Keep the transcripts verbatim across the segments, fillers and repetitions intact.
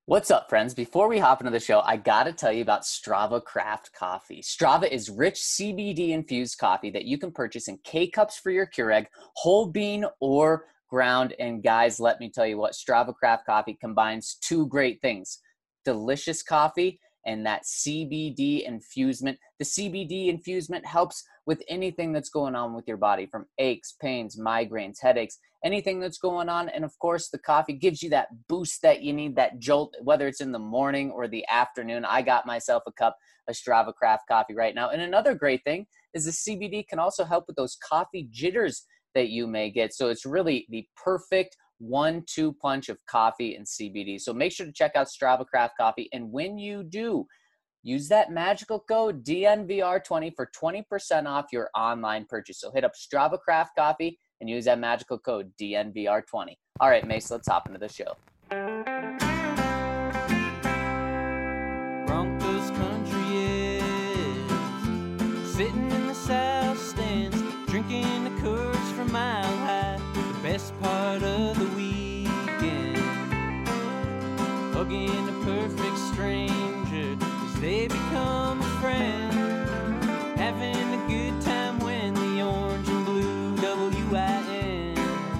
What's up, friends? Before we hop into the show, I got to tell you about Strava Craft Coffee. Strava is rich C B D-infused coffee that you can purchase in K-Cups for your Keurig, whole bean or ground. And guys, let me tell you what, Strava Craft Coffee combines two great things: delicious coffee and that C B D infusement. The C B D infusement helps with anything that's going on with your body, from aches, pains, migraines, headaches, anything that's going on. And of course, the coffee gives you that boost that you need, that jolt, whether it's in the morning or the afternoon. I got myself a cup of Strava Craft coffee right now. And another great thing is the C B D can also help with those coffee jitters that you may get. So it's really the perfect one two punch of coffee and C B D. So make sure to check out Strava Craft Coffee. And when you do, use that magical code D N V R twenty for twenty percent off your online purchase. So hit up Strava Craft Coffee and use that magical code D N V R twenty. All right, Mace, let's hop into the show. Broncos country is sitting in the south stands, drinking the Coors from Mile High. The best part of the weekend, hugging a perfect stranger as they become a friend, having a good time when the orange and blue W I N,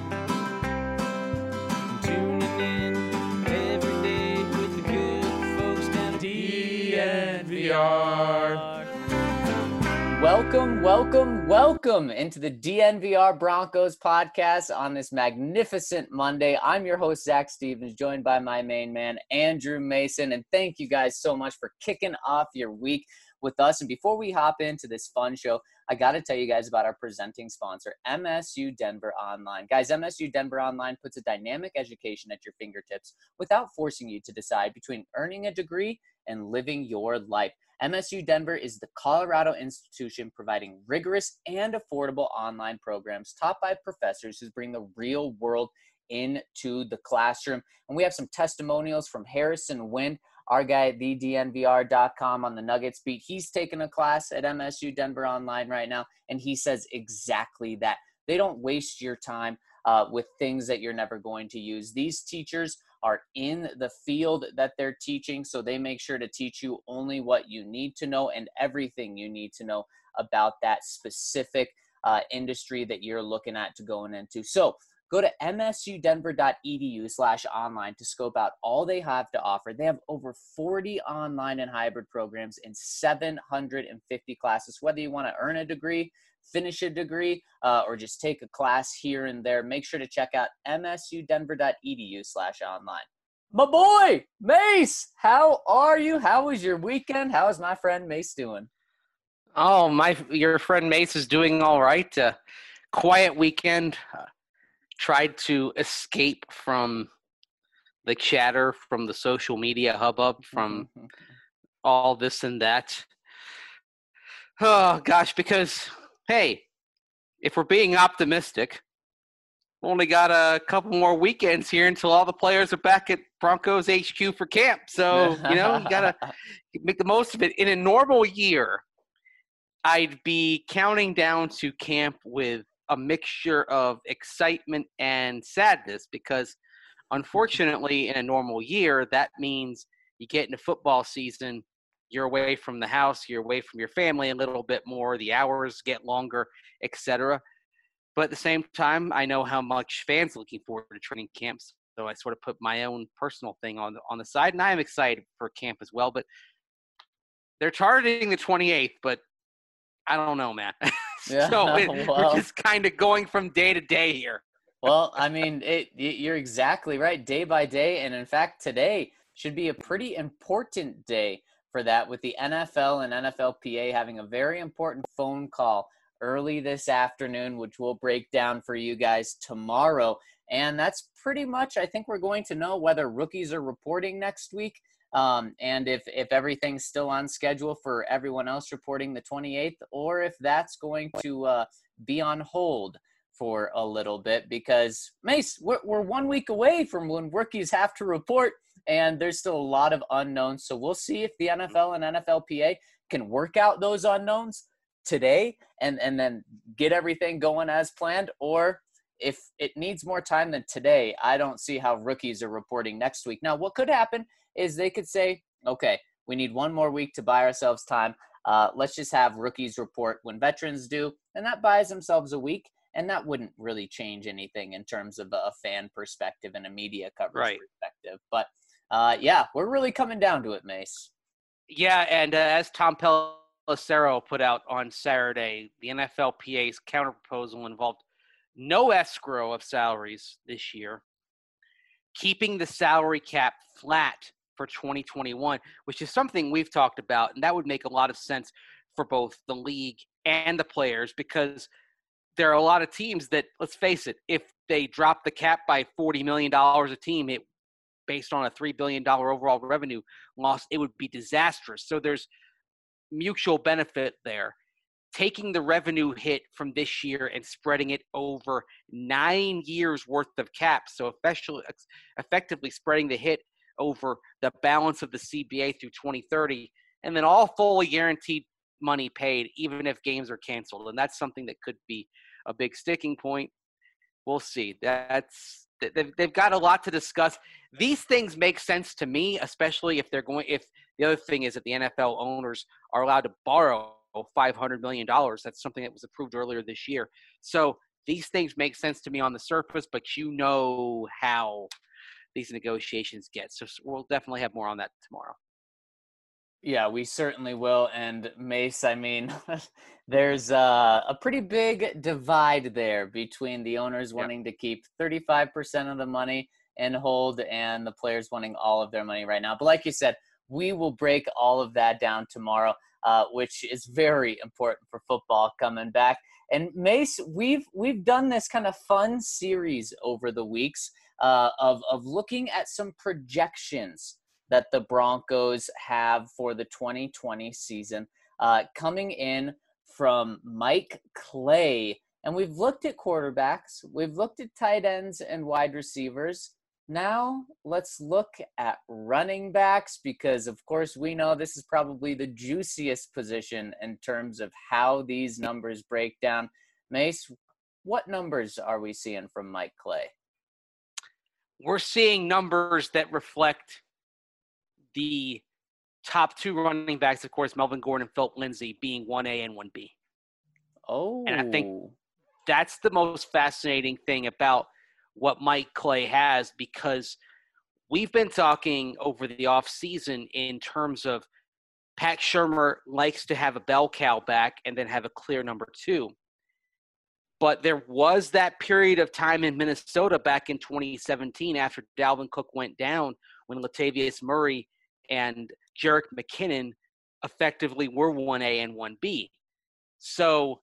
tuning in every day with the good folks down at D N V R. Welcome, welcome, welcome into the D N V R Broncos podcast on this magnificent Monday. I'm your host, Zach Stevens, joined by my main man, Andrew Mason. And thank you guys so much for kicking off your week with us. And before we hop into this fun show, I got to tell you guys about our presenting sponsor, M S U Denver Online. Guys, M S U Denver Online puts a dynamic education at your fingertips without forcing you to decide between earning a degree and living your life. M S U Denver is the Colorado institution providing rigorous and affordable online programs taught by professors who bring the real world into the classroom. And we have some testimonials from Harrison Wind, our guy at the D N V R dot com on the Nuggets beat. He's taking a class at M S U Denver Online right now, and he says exactly that. They don't waste your time uh, with things that you're never going to use. These teachers are in the field that they're teaching, so they make sure to teach you only what you need to know and everything you need to know about that specific uh, industry that you're looking at to going into. So go to M S U Denver dot E D U slash online to scope out all they have to offer. They have over forty online and hybrid programs in seven hundred fifty classes. Whether you want to earn a degree, finish a degree, uh, or just take a class here and there, make sure to check out M S U Denver dot E D U slash online. My boy, Mace, how are you? How was your weekend? How is my friend Mace doing? Oh, my, your friend Mace is doing all right. Uh, quiet weekend. Uh, tried to escape from the chatter, from the social media hubbub, from all this and that. Oh, gosh, because, hey, if we're being optimistic, we only got a couple more weekends here until all the players are back at Broncos H Q for camp. So, you know, you got to make the most of it. In a normal year, I'd be counting down to camp with a mixture of excitement and sadness because, unfortunately, in a normal year, that means you get into football season, you're away from the house, you're away from your family a little bit more, the hours get longer, et cetera. But at the same time, I know how much fans are looking forward to training camps, so I sort of put my own personal thing on the, on the side, and I am excited for camp as well. But they're targeting the twenty-eighth, but I don't know, man. Yeah, so it, well, we're just kind of going from day to day here. Well, I mean, it, you're exactly right, day by day. And in fact, today should be a pretty important day for that, with the N F L and N F L P A having a very important phone call early this afternoon, which we'll break down for you guys tomorrow. And that's pretty much, I think we're going to know whether rookies are reporting next week. Um, and if, if everything's still on schedule for everyone else reporting the twenty-eighth, or if that's going to uh, be on hold for a little bit, because Mace, we're, we're one week away from when rookies have to report, and there's still a lot of unknowns. So we'll see if the N F L and N F L P A can work out those unknowns today and, and then get everything going as planned, or if it needs more time than today, I don't see how rookies are reporting next week. Now, what could happen is they could say, okay, we need one more week to buy ourselves time. Uh, let's just have rookies report when veterans do, and that buys themselves a week, and that wouldn't really change anything in terms of a fan perspective and a media coverage Right. perspective. But, uh, yeah, we're really coming down to it, Mace. Yeah, and uh, as Tom Pelissero put out on Saturday, the N F L P A's counterproposal involved no escrow of salaries this year, keeping the salary cap flat for twenty twenty-one, which is something we've talked about, and that would make a lot of sense for both the league and the players, because there are a lot of teams that, let's face it, if they drop the cap by forty million dollars a team, it based on a three billion dollars overall revenue loss, it would be disastrous. So there's mutual benefit there. Taking the revenue hit from this year and spreading it over nine years worth of cap, so effectively, effectively spreading the hit over the balance of the C B A through twenty thirty, and then all fully guaranteed money paid, even if games are canceled. And that's something that could be a big sticking point. We'll see. That's they've, they've got a lot to discuss. These things make sense to me, especially if they're going, if the other thing is that the N F L owners are allowed to borrow five hundred million dollars. That's something that was approved earlier this year. So these things make sense to me on the surface, but you know how these negotiations get. So we'll definitely have more on that tomorrow. Yeah, we certainly will. And Mace, I mean, there's uh, a pretty big divide there between the owners wanting to keep thirty-five percent of the money and hold, and the players wanting all of their money right now. But like you said, we will break all of that down tomorrow, uh, which is very important for football coming back. And Mace, we've we've done this kind of fun series over the weeks uh, of of looking at some projections that the Broncos have for the twenty twenty season, uh, coming in from Mike Clay. And we've looked at quarterbacks, we've looked at tight ends and wide receivers. Now let's look at running backs, because of course we know this is probably the juiciest position in terms of how these numbers break down. Mace, what numbers are we seeing from Mike Clay? We're seeing numbers that reflect the top two running backs, of course, Melvin Gordon and Philip Lindsay, being one A and one B. Oh. And I think that's the most fascinating thing about what Mike Clay has, because we've been talking over the offseason in terms of Pat Shurmur likes to have a bell cow back and then have a clear number two. But there was that period of time in Minnesota back in twenty seventeen after Dalvin Cook went down, when Latavius Murray and Jerick McKinnon effectively were one A and one B. So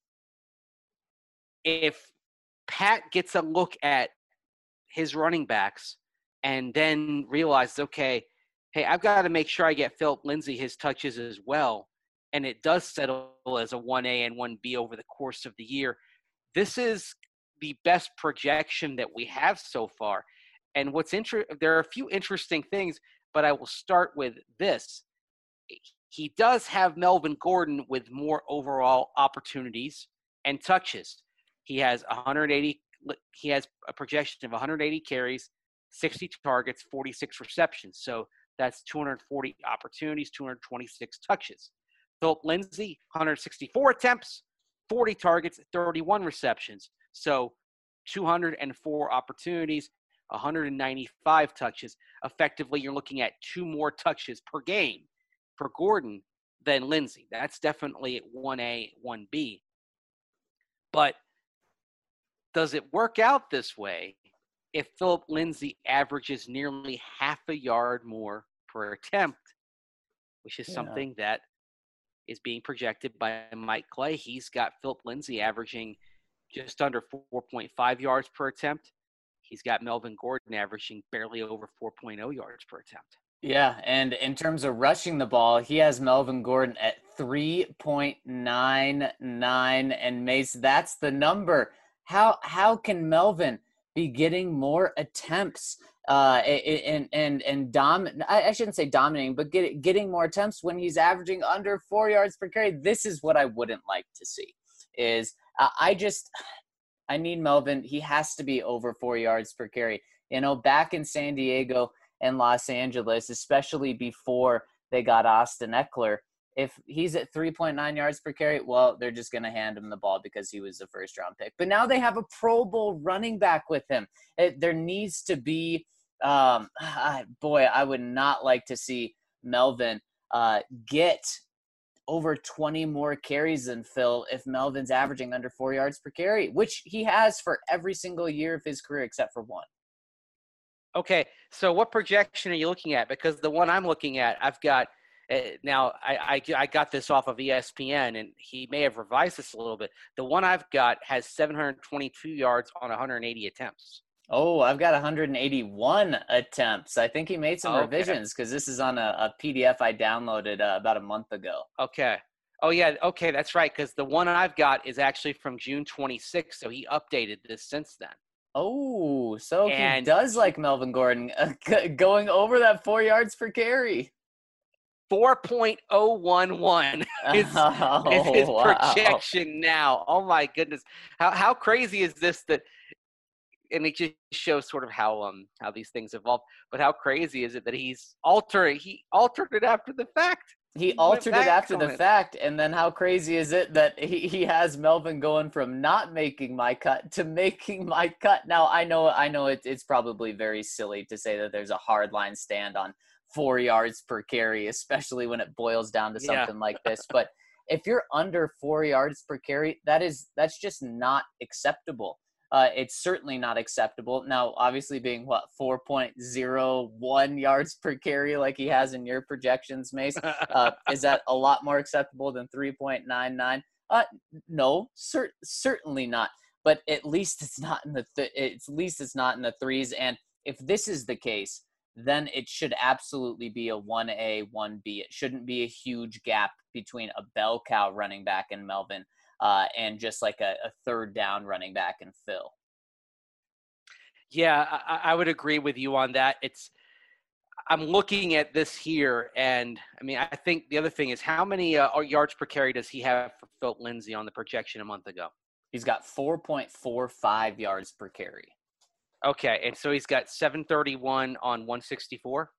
if Pat gets a look at his running backs and then realizes, okay, hey, I've got to make sure I get Philip Lindsay his touches as well, and it does settle as a one A and one B over the course of the year, this is the best projection that we have so far. And what's inter- there are a few interesting things, but I will start with this. He does have Melvin Gordon with more overall opportunities and touches. He has one hundred eighty. He has a projection of one hundred eighty carries, sixty targets, forty-six receptions. So that's two hundred forty opportunities, two hundred twenty-six touches. Philip Lindsay, one hundred sixty-four attempts, forty targets, thirty-one receptions. So two hundred four opportunities, one hundred ninety-five touches. Effectively, you're looking at two more touches per game for Gordon than Lindsay. That's definitely one A, one B. But does it work out this way if Philip Lindsay averages nearly half a yard more per attempt, which is yeah. something that is being projected by Mike Clay? He's got Philip Lindsay averaging just under four point five yards per attempt. He's got Melvin Gordon averaging barely over four point oh yards per attempt. Yeah, and in terms of rushing the ball, he has Melvin Gordon at three point nine nine, and Mace, that's the number. How how can Melvin be getting more attempts uh, and and and dom? I shouldn't say dominating, but get, getting more attempts when he's averaging under four yards per carry? This is what I wouldn't like to see. Is uh, I just I need Melvin. He has to be over four yards per carry. You know, back in San Diego and Los Angeles, especially before they got Austin Eckler, if he's at three point nine yards per carry, well, they're just going to hand him the ball because he was a first-round pick. But now they have a Pro Bowl running back with him. It, there needs to be um, – boy, I would not like to see Melvin uh, get over twenty more carries than Phil if Melvin's averaging under four yards per carry, which he has for every single year of his career except for one. Okay, so what projection are you looking at? Because the one I'm looking at, I've got uh, – now, I, I, I got this off of E S P N, and he may have revised this a little bit. The one I've got has seven hundred twenty-two yards on one hundred eighty attempts. Oh, I've got one hundred eighty-one attempts. I think he made some Okay. revisions because this is on a, a P D F I downloaded uh, about a month ago. Okay. Oh, yeah, okay, that's right, because the one I've got is actually from June twenty-sixth, so he updated this since then. Oh, so And- he does like Melvin Gordon uh, going over that four yards per carry. four point oh one one is, Oh, is his wow. projection now. Oh, my goodness. How how crazy is this that – and it just shows sort of how um how these things evolve. But how crazy is it that he's altering – he altered it after the fact. He went altered it back after on the it. fact, and then how crazy is it that he, he has Melvin going from not making my cut to making my cut? Now, I know I know it, it's probably very silly to say that there's a hard line stand on four yards per carry, especially when it boils down to Yeah. something like this. But if you're under four yards per carry, that is that's just not acceptable. Uh, it's certainly not acceptable. Now, obviously being, what, four point oh one yards per carry like he has in your projections, Mace, uh, is that a lot more acceptable than three point nine nine? Uh, no, cer- certainly not. But at least it's not in the th- it's, at least it's not in the threes. And if this is the case, then it should absolutely be a one A, one B. It shouldn't be a huge gap between a bell cow running back and Melvin. Uh, and just like a, a third down running back and Phil. Yeah, I, I would agree with you on that. It's I'm looking at this here, and I mean, I think the other thing is how many uh, yards per carry does he have for Phil Lindsay on the projection a month ago? He's got four point four five yards per carry. Okay, and so he's got seven thirty-one on one sixty-four?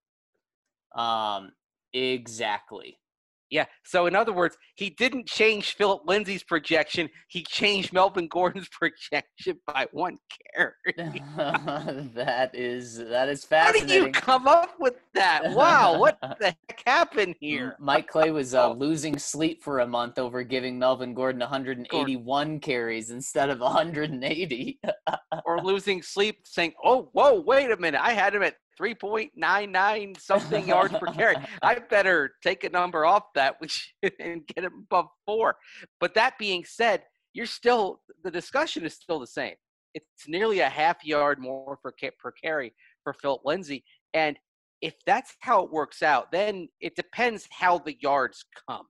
Um, exactly. Yeah, so in other words, he didn't change Philip Lindsay's projection. He changed Melvin Gordon's projection by one carry. that is that is How fascinating. do you come up with that? Wow, what the heck happened here? Mike Clay was uh, losing sleep for a month over giving Melvin Gordon one hundred eighty-one carries instead of one hundred eighty. Or losing sleep saying, oh, whoa, wait a minute. I had him at three point nine nine something yards per carry. I better take a number off that we should and get him above four. But that being said, you're still – the discussion is still the same. It's nearly a half yard more per, per carry for Philip Lindsay. And if that's how it works out, then it depends how the yards come.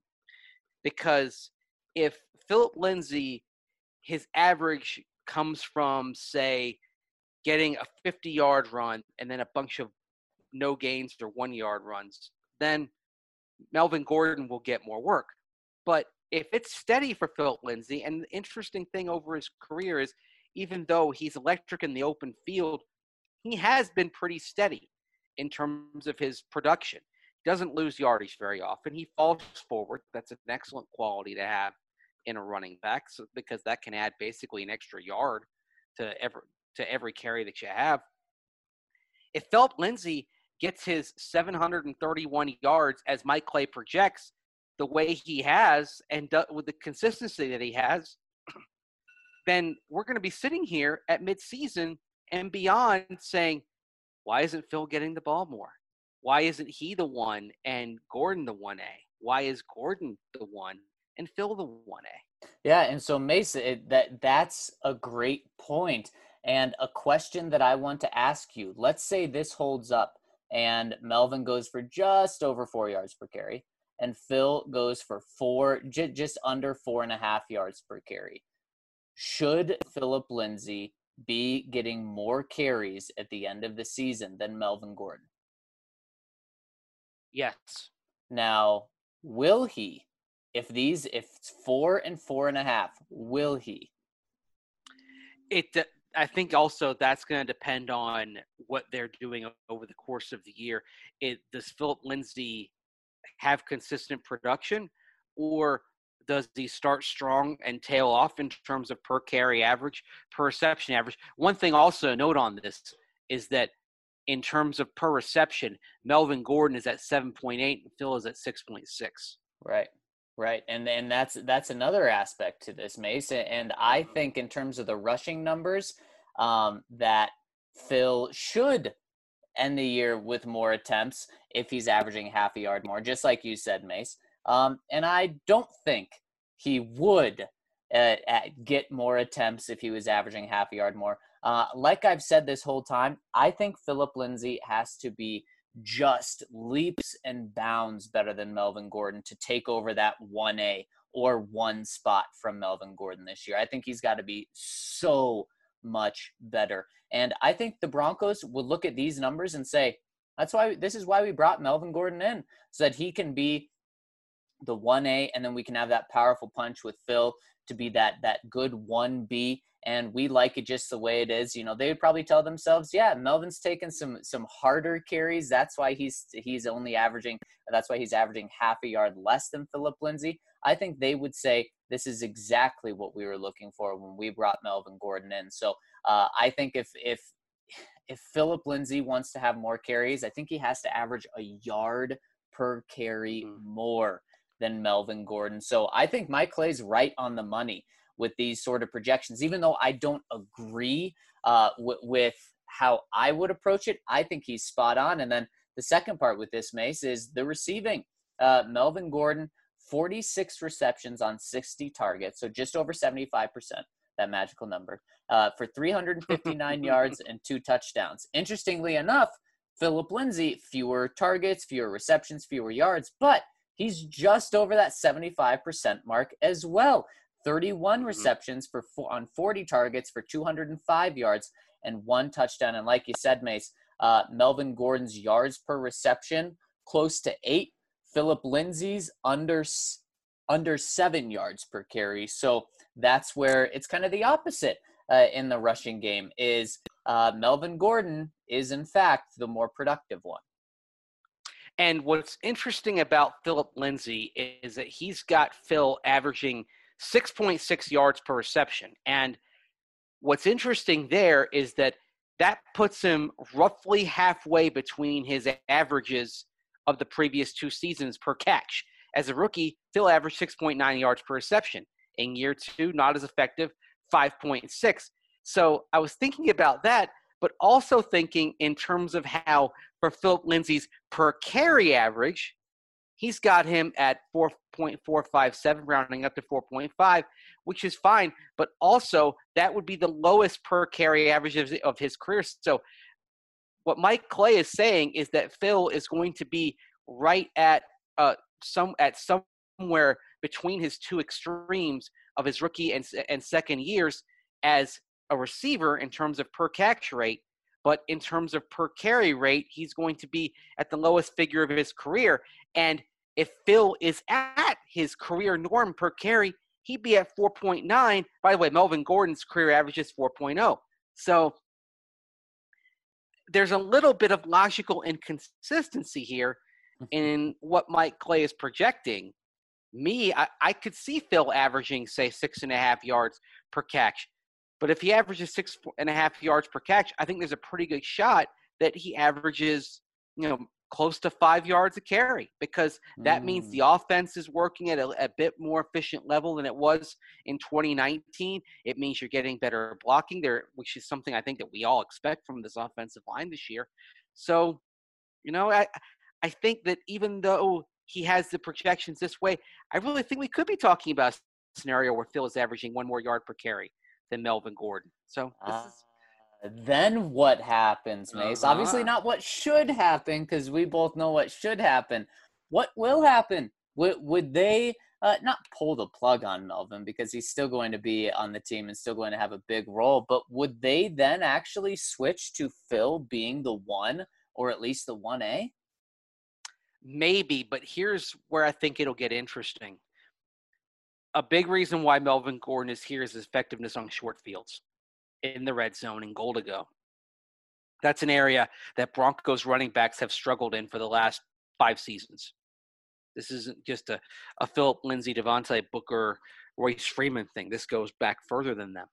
Because if Philip Lindsay, his average comes from, say, getting a fifty-yard run and then a bunch of no gains or one-yard runs, then Melvin Gordon will get more work. But if it's steady for Philip Lindsay, and the interesting thing over his career is even though he's electric in the open field, he has been pretty steady in terms of his production. He doesn't lose yardage very often. He falls forward. That's an excellent quality to have in a running back so, because that can add basically an extra yard to every, to every carry that you have. If Philip Lindsay gets his seven hundred thirty-one yards as Mike Clay projects the way he has and do, with the consistency that he has, then we're going to be sitting here at midseason and beyond saying, why isn't Phil getting the ball more? Why isn't he the one and Gordon the one A? Why is Gordon the one and Phil the one A? Yeah, and so Mason, it, that that's a great point. And a question that I want to ask you, let's say this holds up and Melvin goes for just over four yards per carry and Phil goes for four, j- just under four and a half yards per carry. Should Philip Lindsay be getting more carries at the end of the season than Melvin Gordon? Yes. Now, will he? If these, if it's four and four and a half, will he? It, uh, I think also that's going to depend on what they're doing over the course of the year. It does Philip Lindsay have consistent production, or does he start strong and tail off in terms of per carry average, per reception average? One thing also note on this is that in terms of per reception, Melvin Gordon is at seven point eight and Phil is at six point six. Right. Right. And and that's that's another aspect to this, Mace. And I think in terms of the rushing numbers, um, that Phil should end the year with more attempts if he's averaging half a yard more, just like you said, Mace. Um, and I don't think he would uh, get more attempts if he was averaging half a yard more. Uh, like I've said this whole time, I think Philip Lindsay has to be just leaps and bounds better than Melvin Gordon to take over that one A or one spot from Melvin Gordon this year. I think he's got to be so much better. And I think the Broncos would look at these numbers and say, that's why this is why we brought Melvin Gordon in, so that he can be the one A, and then we can have that powerful punch with Phil to be that that good one B. And we like it just the way it is. You know, they would probably tell themselves, yeah, Melvin's taken some some harder carries. That's why he's he's only averaging, that's why he's averaging half a yard less than Philip Lindsay. I think they would say this is exactly what we were looking for when we brought Melvin Gordon in. So uh, I think if if if Philip Lindsay wants to have more carries, I think he has to average a yard per carry more than Melvin Gordon. So I think Mike Clay's right on the money with these sort of projections, even though I don't agree uh, w- with how I would approach it. I think he's spot on. And then the second part with this, Mace, is the receiving. Uh, Melvin Gordon, forty-six receptions on sixty targets, so just over seventy-five percent, that magical number, uh, for three hundred fifty-nine yards and two touchdowns. Interestingly enough, Philip Lindsay, fewer targets, fewer receptions, fewer yards, but he's just over that seventy-five percent mark as well. thirty-one receptions for on forty targets for two hundred five yards and one touchdown. And like you said, Mace, uh, Melvin Gordon's yards per reception, close to eight. Philip Lindsay's under, under seven yards per carry. So that's where it's kind of the opposite uh, in the rushing game is uh, Melvin Gordon is, in fact, the more productive one. And what's interesting about Philip Lindsay is that he's got Phil averaging six point six yards per reception. And what's interesting there is that that puts him roughly halfway between his averages of the previous two seasons per catch. As a rookie, Phil averaged six point nine yards per reception. In year two, not as effective, five point six. So I was thinking about that, but also thinking in terms of how for Philip Lindsay's per carry average, he's got him at four point four five seven, rounding up to four point five, which is fine. But also, that would be the lowest per carry average of, of his career. So what Mike Clay is saying is that Phil is going to be right at uh, some at somewhere between his two extremes of his rookie and, and second years as a receiver in terms of per catch rate. But in terms of per carry rate, he's going to be at the lowest figure of his career. And if Phil is at his career norm per carry, he'd be at four point nine. By the way, Melvin Gordon's career average is four point oh. So there's a little bit of logical inconsistency here in what Mike Clay is projecting. Me, I, I could see Phil averaging, say, six and a half yards per catch. But if he averages six and a half yards per catch, I think there's a pretty good shot that he averages, you know, close to five yards a carry, because that mm. means the offense is working at a, a bit more efficient level than it was in twenty nineteen. It means you're getting better blocking there, which is something I think that we all expect from this offensive line this year. So, you know, I I think that even though he has the projections this way, I really think we could be talking about a scenario where Phil is averaging one more yard per carry than Melvin Gordon. So this uh, is then what happens, Mace? Uh-huh. Obviously not what should happen, because we both know what should happen. What will happen? Would, would they uh, not pull the plug on Melvin, because he's still going to be on the team and still going to have a big role, but would they then actually switch to Phil being the one, or at least the one A? Maybe, but here's where I think it'll get interesting. A big reason why Melvin Gordon is here is his effectiveness on short fields. in the red zone and goal to go. That's an area that Broncos running backs have struggled in for the last five seasons. This isn't just a, a Philip Lindsay, Devontae Booker, Royce Freeman thing. This goes back further than them.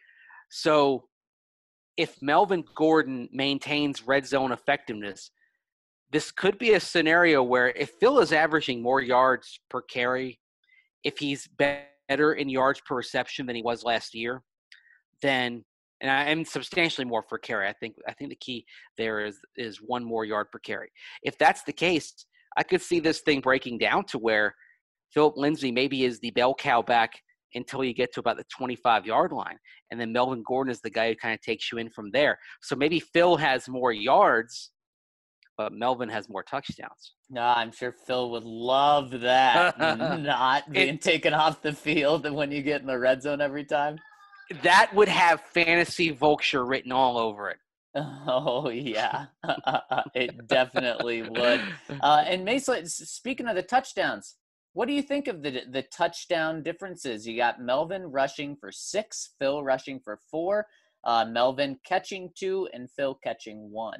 So if Melvin Gordon maintains red zone effectiveness, this could be a scenario where if Phil is averaging more yards per carry, if he's better in yards per reception than he was last year, then and I am substantially more per carry. I think I think the key there is is one more yard per carry. If that's the case, I could see this thing breaking down to where Philip Lindsay maybe is the bell cow back until you get to about the twenty-five-yard line, and then Melvin Gordon is the guy who kind of takes you in from there. So maybe Phil has more yards, but Melvin has more touchdowns. No, I'm sure Phil would love that, not being It- taken off the field when you get in the red zone every time. That would have fantasy vulture written all over it. Oh, yeah. It definitely would. Uh, and Mason, speaking of the touchdowns, what do you think of the the touchdown differences? You got Melvin rushing for six, Phil rushing for four, uh, Melvin catching two, and Phil catching one.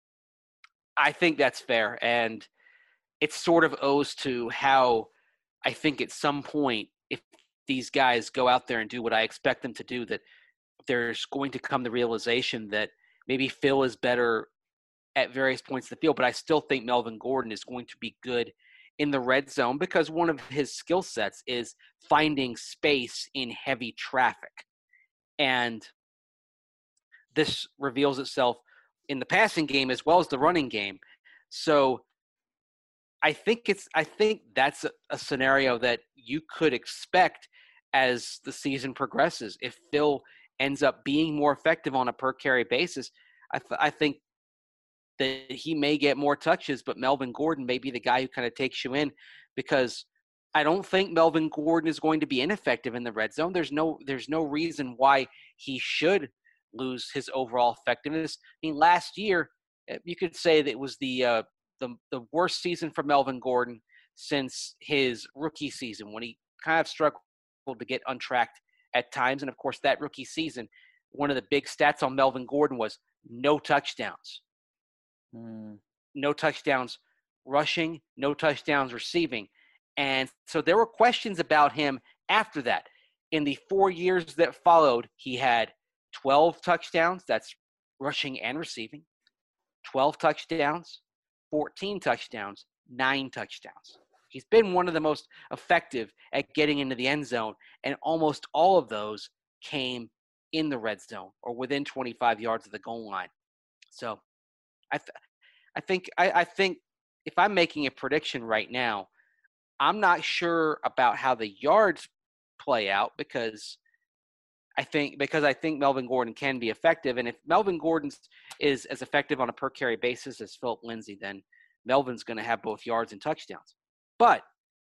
I think that's fair, and it sort of owes to how I think at some point, if these guys go out there and do what I expect them to do, that there's going to come the realization that maybe Phil is better at various points of the field, but I still think Melvin Gordon is going to be good in the red zone because one of his skill sets is finding space in heavy traffic. And this reveals itself in the passing game as well as the running game. So I think it's I think that's a, a scenario that you could expect as the season progresses. If Phil ends up being more effective on a per carry basis, I, th- I think that he may get more touches, but Melvin Gordon may be the guy who kind of takes you in because I don't think Melvin Gordon is going to be ineffective in the red zone. There's no there's no reason why he should lose his overall effectiveness. I mean, last year you could say that it was the uh, the the worst season for Melvin Gordon since his rookie season when he kind of struggled to get untracked at times. And of course, that rookie season, one of the big stats on Melvin Gordon was no touchdowns. Mm. No touchdowns rushing, no touchdowns receiving. And so there were questions about him after that. In the four years that followed, he had twelve touchdowns, that's rushing and receiving, twelve touchdowns, fourteen touchdowns, nine touchdowns. He's been one of the most effective at getting into the end zone, and almost all of those came in the red zone or within twenty-five yards of the goal line. So I, th- I think I, I think if I'm making a prediction right now, I'm not sure about how the yards play out because I think because I think Melvin Gordon can be effective, and if Melvin Gordon is as effective on a per carry basis as Philip Lindsay, then Melvin's going to have both yards and touchdowns. But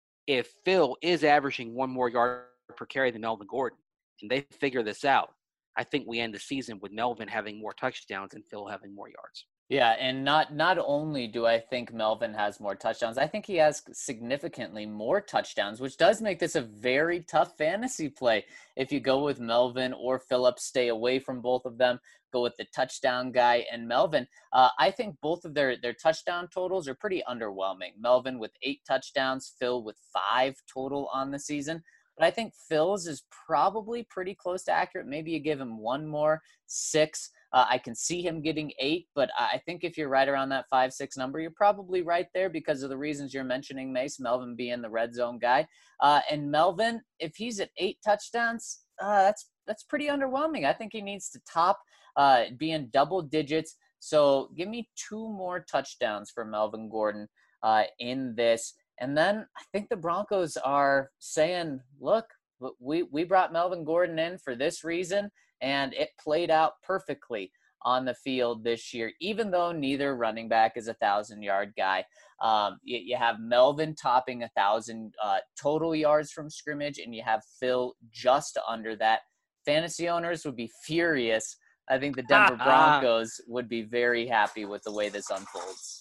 if Phil is averaging one more yard per carry than Melvin Gordon, and they figure this out, I think we end the season with Melvin having more touchdowns and Phil having more yards. Yeah, and not not only do I think Melvin has more touchdowns, I think he has significantly more touchdowns, which does make this a very tough fantasy play. If you go with Melvin or Phillips, stay away from both of them. Go with the touchdown guy and Melvin. Uh, I think both of their, their touchdown totals are pretty underwhelming. Melvin with eight touchdowns, Phil with five total on the season. But I think Phil's is probably pretty close to accurate. Maybe you give him one more, six. Uh, I can see him getting eight, but I think if you're right around that five, six number, you're probably right there because of the reasons you're mentioning, Mace, Melvin being the red zone guy. Uh, and Melvin, if he's at eight touchdowns, uh, that's that's pretty underwhelming. I think he needs to top uh, be in double digits. So give me two more touchdowns for Melvin Gordon uh, in this. And then I think the Broncos are saying, look, we, we brought Melvin Gordon in for this reason, and it played out perfectly on the field this year, even though neither running back is a thousand-yard guy. Um, you, you have Melvin topping a thousand uh, total yards from scrimmage, and you have Phil just under that. Fantasy owners would be furious. I think the Denver Broncos would be very happy with the way this unfolds.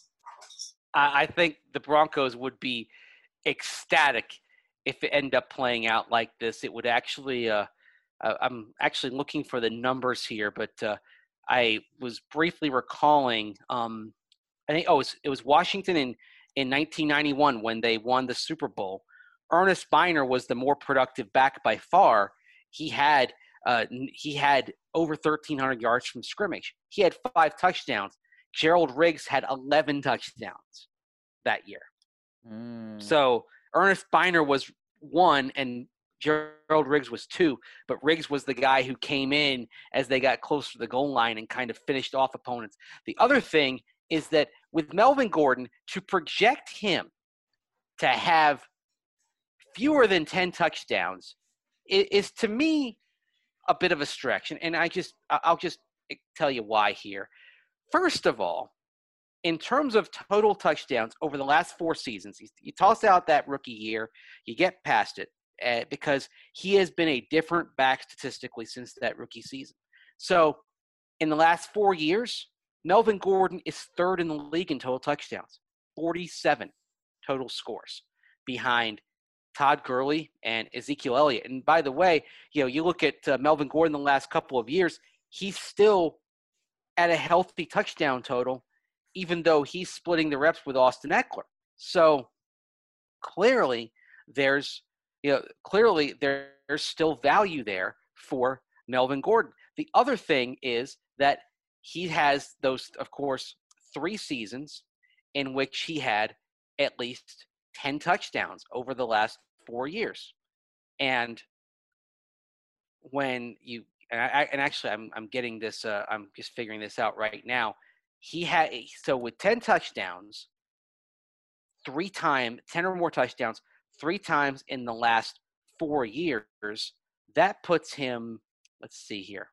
I think the Broncos would be ecstatic if it ended up playing out like this. It would actually uh, uh, I'm actually looking for the numbers here, but uh, I was briefly recalling. Um, I think oh, it was, it was Washington in in nineteen ninety-one when they won the Super Bowl. Ernest Biner was the more productive back by far. He had uh, he had over thirteen hundred yards from scrimmage. He had five touchdowns. Gerald Riggs had eleven touchdowns that year. Mm. So Ernest Biner was one and Gerald Riggs was two, but Riggs was the guy who came in as they got closer to the goal line and kind of finished off opponents. The other thing is that with Melvin Gordon, to project him to have fewer than ten touchdowns is, is to me a bit of a stretch. And, and I just, I'll just tell you why here. First of all, in terms of total touchdowns over the last four seasons, you, you toss out that rookie year, you get past it uh, because he has been a different back statistically since that rookie season. So in the last four years, Melvin Gordon is third in the league in total touchdowns, forty-seven total scores behind Todd Gurley and Ezekiel Elliott. And by the way, you know, you look at uh, Melvin Gordon the last couple of years, he's still at a healthy touchdown total, even though he's splitting the reps with Austin Eckler. So clearly there's, you know, clearly there, there's still value there for Melvin Gordon. The other thing is that he has those, of course, three seasons in which he had at least ten touchdowns over the last four years. And when you, and, I, and actually I'm, I'm getting this, uh, I'm just figuring this out right now. He had, so with ten touchdowns, three times, ten or more touchdowns, three times in the last four years, that puts him, let's see here.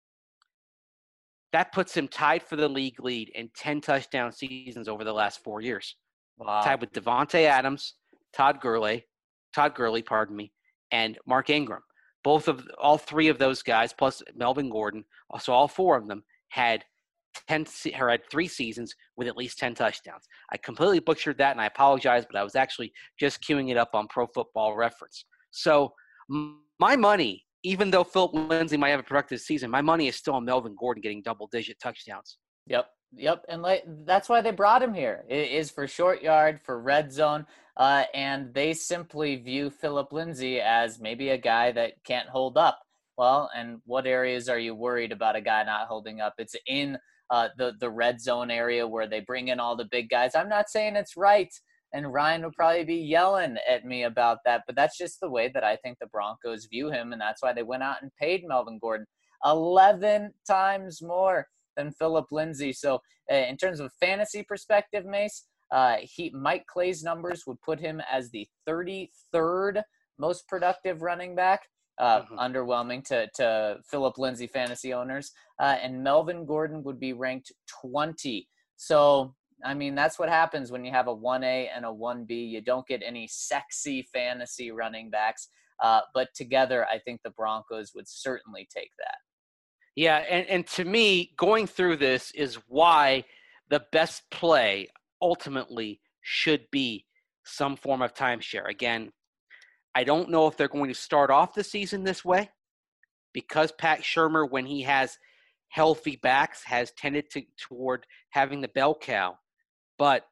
That puts him tied for the league lead in ten touchdown seasons over the last four years. Wow. Tied with Devontae Adams, Todd Gurley, Todd Gurley, pardon me, and Mark Ingram. Both of, all three of those guys, plus Melvin Gordon, so all four of them had ten or had three seasons with at least ten touchdowns. I completely butchered that, and I apologize, but I was actually just queuing it up on Pro Football Reference. So my money, even though Philip Lindsay might have a productive season, my money is still on Melvin Gordon getting double-digit touchdowns. Yep, yep, and like that's why they brought him here. It is for short yard, for red zone, uh, and they simply view Philip Lindsay as maybe a guy that can't hold up. Well, and what areas are you worried about a guy not holding up? It's in uh, the the red zone area where they bring in all the big guys. I'm not saying it's right, and Ryan will probably be yelling at me about that, but that's just the way that I think the Broncos view him, and that's why they went out and paid Melvin Gordon eleven times more than Philip Lindsay. So uh, in terms of fantasy perspective, Mace, uh, he Mike Clay's numbers would put him as the thirty-third most productive running back. Uh, mm-hmm. Underwhelming to, to Philip Lindsay fantasy owners. Uh, and Melvin Gordon would be ranked twentieth. So, I mean, that's what happens when you have a one A and a one B. You don't get any sexy fantasy running backs. Uh, but together, I think the Broncos would certainly take that. Yeah, and, and to me, going through this is why the best play ultimately should be some form of timeshare. Again, I don't know if they're going to start off the season this way because Pat Shurmur, when he has healthy backs, has tended to toward having the bell cow. But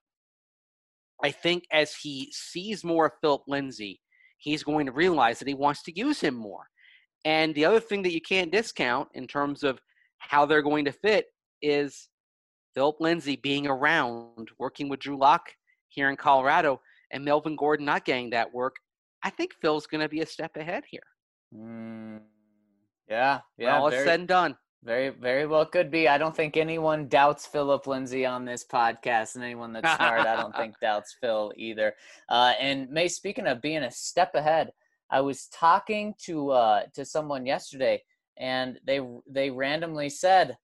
I think as he sees more of Philip Lindsay, he's going to realize that he wants to use him more. And the other thing that you can't discount in terms of how they're going to fit is Philip Lindsay being around, working with Drew Lock here in Colorado, and Melvin Gordon not getting that work. I think Phil's going to be a step ahead here. Mm, yeah, yeah. When all is said and done. Very, very well could be. I don't think anyone doubts Philip Lindsay on this podcast, and anyone that's smart, I don't think doubts Phil either. Uh, and May, speaking of being a step ahead, I was talking to uh, to someone yesterday, and they they randomly said,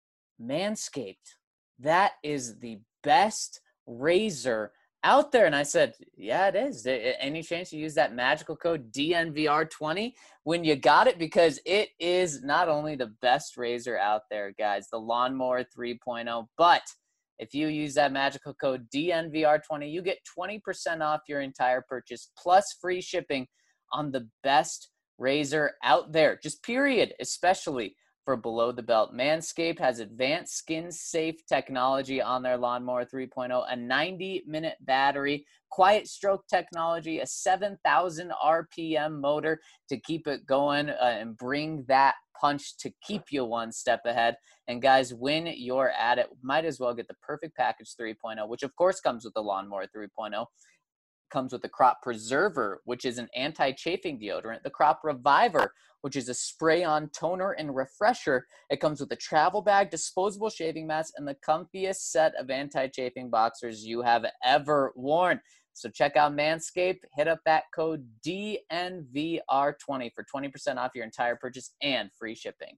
Manscaped, that is the best razor out there. And I said, yeah, it is. Any chance you use that magical code D N V R twenty when you got it? Because it is not only the best razor out there, guys, the Lawnmower three point oh, but if you use that magical code D N V R twenty, you get twenty percent off your entire purchase plus free shipping on the best razor out there, just period, especially for below the belt. Manscaped has advanced skin safe technology on their Lawnmower three point oh, a ninety minute battery, quiet stroke technology, a seven thousand R P M motor to keep it going uh, and bring that punch to keep you one step ahead. And guys, when you're at it, might as well get the Perfect Package three point oh, which of course comes with the Lawnmower three point oh. Comes with the Crop Preserver, which is an anti-chafing deodorant, the Crop Reviver, which is a spray-on toner and refresher. It comes with a travel bag, disposable shaving mask, and the comfiest set of anti-chafing boxers you have ever worn. So check out Manscaped, hit up that code D N V R twenty for twenty percent off your entire purchase and free shipping.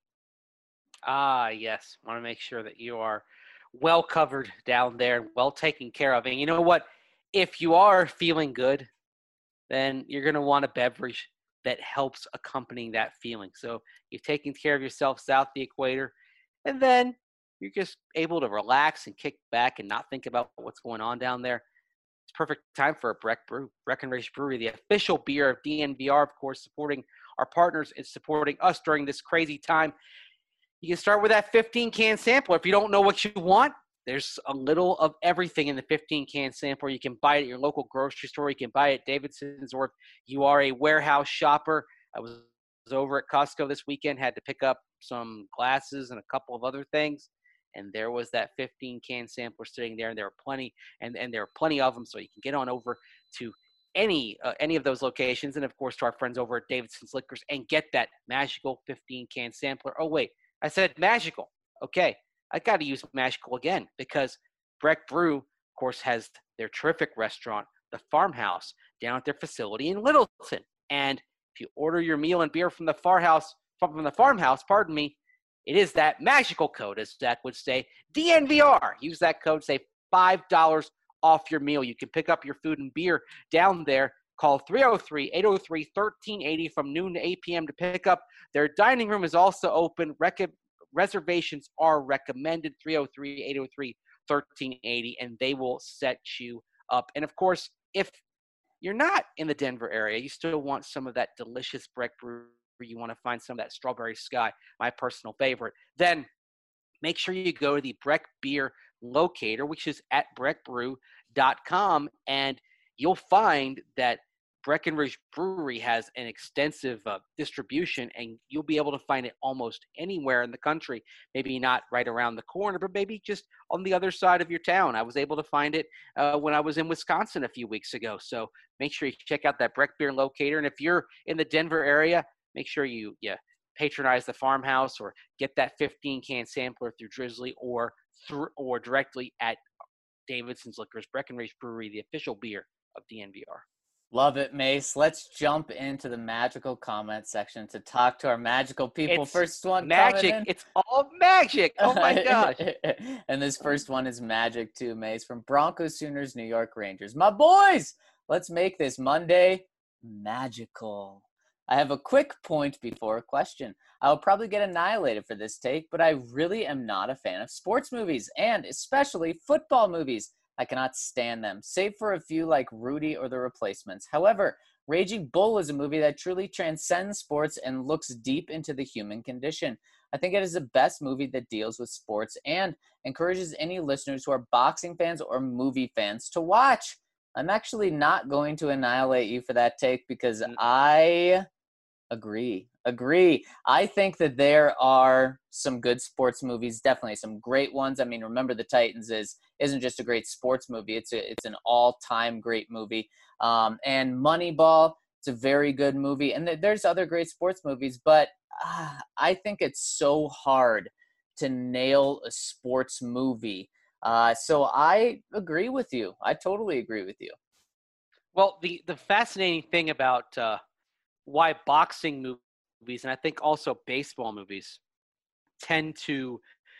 Ah, yes. Want to make sure that you are well covered down there, well taken care of. And you know what? If you are feeling good, then you're going to want a beverage that helps accompany that feeling. So you've taken care of yourself south the equator, and then you're just able to relax and kick back and not think about what's going on down there. It's perfect time for a Breck Brew. Breckenridge Brewery, the official beer of D N V R, of course, supporting our partners and supporting us during this crazy time. You can start with that fifteen can sampler. If you don't know what you want, there's a little of everything in the fifteen can sampler. You can buy it at your local grocery store. You can buy it at Davidson's, or if you are a warehouse shopper. I was over at Costco this weekend, had to pick up some glasses and a couple of other things, and there was that fifteen can sampler sitting there, and there were plenty, and, and there are plenty of them, so you can get on over to any uh, any of those locations, and of course to our friends over at Davidson's Liquors, and get that magical fifteen can sampler. Oh wait, I said magical. Okay. I got to use magical again, because Breck Brew, of course, has their terrific restaurant, The Farmhouse, down at their facility in Littleton. And if you order your meal and beer from the farmhouse, from the farmhouse, pardon me, it is that magical code, as Zach would say, D N V R. Use that code, save five dollars off your meal. You can pick up your food and beer down there. Call three oh three, eight oh three, one three eight oh from noon to eight p.m. to pick up. Their dining room is also open. Rec- Reservations are recommended, three oh three, eight oh three, one three eight oh, and they will set you up. And, of course, if you're not in the Denver area, you still want some of that delicious Breck Brew, you want to find some of that Strawberry Sky, my personal favorite, then make sure you go to the Breck Beer Locator, which is at breck brew dot com, and you'll find that Breckenridge Brewery has an extensive uh, distribution, and you'll be able to find it almost anywhere in the country. Maybe not right around the corner, but maybe just on the other side of your town. I was able to find it uh, when I was in Wisconsin a few weeks ago. So make sure you check out that Breck Beer Locator. And if you're in the Denver area, make sure you yeah, patronize the Farmhouse or get that fifteen can sampler through Drizzly or through or directly at Davidson's Liquors. Breckenridge Brewery, the official beer of D N V R. Love it, Mace. Let's jump into the magical comment section to talk to our magical people. It's first one, magic. It's all magic. Oh my gosh. And this first one is magic too, Mace, from Broncos, Sooners, New York Rangers. My boys, let's make this Monday magical. I have a quick point before a question. I will probably get annihilated for this take, but I really am not a fan of sports movies, and especially football movies. I cannot stand them, save for a few like Rudy or The Replacements. However, Raging Bull is a movie that truly transcends sports and looks deep into the human condition. I think it is the best movie that deals with sports and encourages any listeners who are boxing fans or movie fans to watch. I'm actually not going to annihilate you for that take because I agree. Agree. I think that there are some good sports movies, definitely some great ones. I mean, Remember the Titans is isn't just a great sports movie; it's a, it's an all-time great movie. Um, and Moneyball, it's a very good movie. And th- there's other great sports movies, but uh, I think it's so hard to nail a sports movie. Uh, so I agree with you. I totally agree with you. Well, the the fascinating thing about uh, why boxing movies, and I think also baseball movies, tend to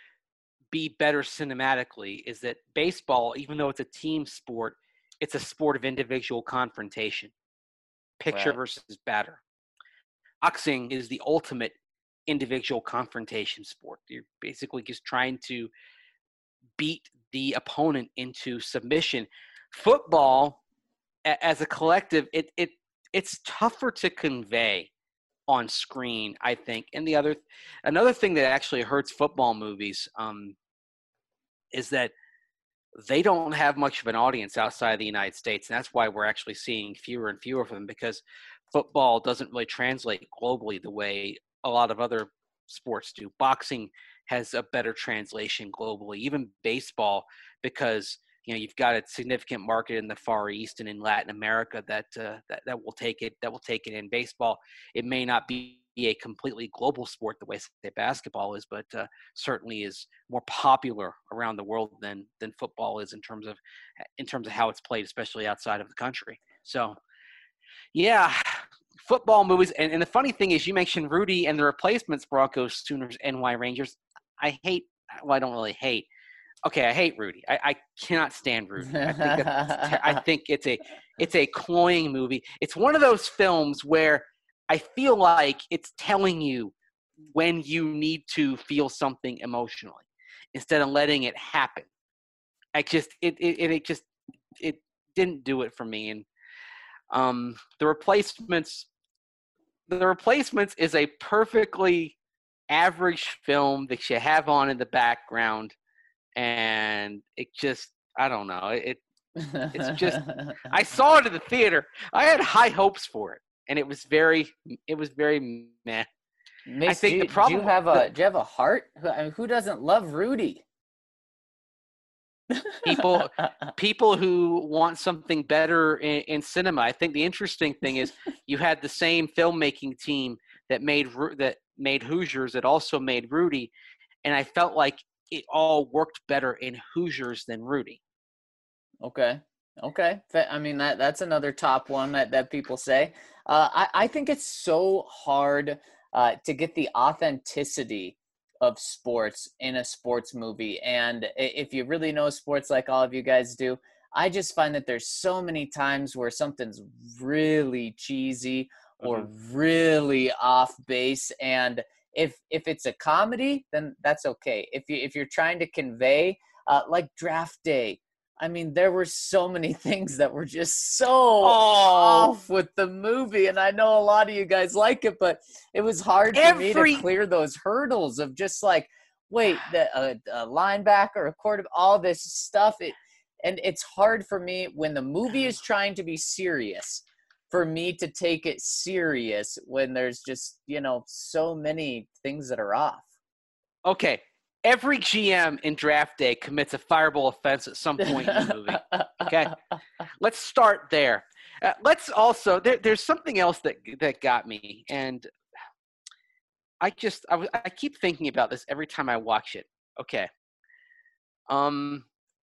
be better cinematically is that baseball, even though it's a team sport, it's a sport of individual confrontation. Picture Right. versus batter. Boxing is the ultimate individual confrontation sport. You're basically just trying to beat the opponent into submission. Football, a- as a collective, it it it's tougher to convey on screen, I think. And the other, another thing that actually hurts football movies um, is that they don't have much of an audience outside of the United States. And that's why we're actually seeing fewer and fewer of them, because football doesn't really translate globally the way a lot of other sports do. Boxing has a better translation globally, even baseball, because you know you've got a significant market in the Far East and in Latin America that uh, that that will take it that will take it in. Baseball, it may not be a completely global sport the way say basketball is, but uh, certainly is more popular around the world than than football is in terms of in terms of how it's played, especially outside of the country. So, yeah, football movies. And, and the funny thing is, you mentioned Rudy and the Replacements, Broncos, Sooners, N Y Rangers. I hate. Well, I don't really hate. Okay, I hate Rudy. I, I cannot stand Rudy. I think that's, I think it's a it's a cloying movie. It's one of those films where I feel like it's telling you when you need to feel something emotionally instead of letting it happen. I just it it, it just it didn't do it for me. And um, the Replacements, the Replacements is a perfectly average film that you have on in the background, and it just I don't know it. It's just I saw it in the theater. I had high hopes for it. And it was very, it was very meh. Mace, I think do, the problem. Do you have a, do you have a heart? I mean, who doesn't love Rudy? People, people who want something better in, in cinema. I think the interesting thing is you had the same filmmaking team that made that made Hoosiers that also made Rudy, and I felt like it all worked better in Hoosiers than Rudy. Okay. Okay. I mean, that that's another top one that, that people say. Uh, I, I think it's so hard uh, to get the authenticity of sports in a sports movie. And if you really know sports like all of you guys do, I just find that there's so many times where something's really cheesy or mm-hmm. really off base. And if if it's a comedy, then that's okay. If you if you're trying to convey, uh, like Draft Day, I mean, there were so many things that were just so oh. off with the movie. And I know a lot of you guys like it, but it was hard Every... for me to clear those hurdles of just like, wait, the a, a linebacker, a quarterback, all this stuff. It, and it's hard for me when the movie is trying to be serious for me to take it serious when there's just, you know, so many things that are off. Okay. Every G M in Draft Day commits a fireable offense at some point in the movie. Okay, let's start there. Uh, let's also there, there's something else that that got me, and I just I, w- I keep thinking about this every time I watch it. Okay, um,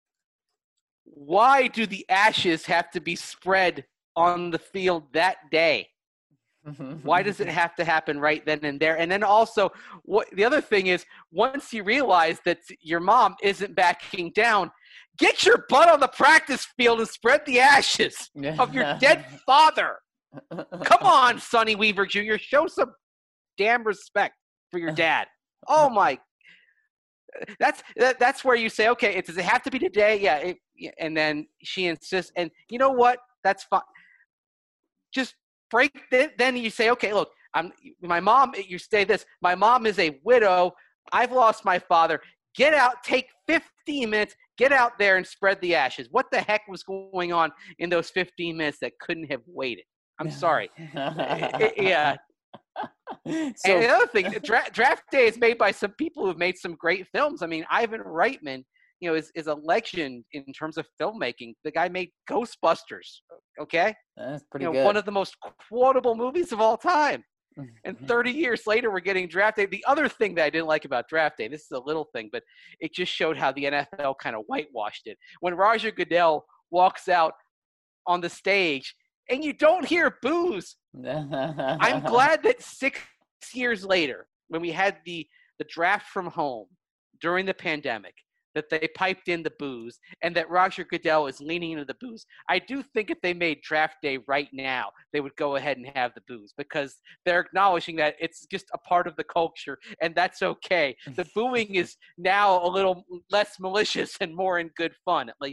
why do the ashes have to be spread on the field that day? Why does it have to happen right then and there? And then also, what the other thing is, once you realize that your mom isn't backing down, get your butt on the practice field and spread the ashes of your dead father. Come on, Sonny Weaver Junior Show some damn respect for your dad. Oh my! That's that, that's where you say, okay, it, does it have to be today? Yeah. It, and then she insists, and you know what? That's fine. Just. Break then you say, okay, look, I'm my mom. You say this. My mom is a widow. I've lost my father. Get out. Take fifteen minutes. Get out there and spread the ashes. What the heck was going on in those fifteen minutes that couldn't have waited? I'm sorry. Yeah. So, and the other thing, dra- Draft Day is made by some people who've made some great films. I mean, Ivan Reitman, you know, is, is a legend in terms of filmmaking. The guy made Ghostbusters, okay? That's pretty you know, good. One of the most quotable movies of all time. And thirty years later, we're getting Draft Day. The other thing that I didn't like about Draft Day, this is a little thing, but it just showed how the N F L kind of whitewashed it. When Roger Goodell walks out on the stage and you don't hear boos, I'm glad that six years later, when we had the, the draft from home during the pandemic, that they piped in the booze and that Roger Goodell is leaning into the booze. I do think if they made Draft Day right now, they would go ahead and have the booze because they're acknowledging that it's just a part of the culture and that's okay. The booing is now a little less malicious and more in good fun, at least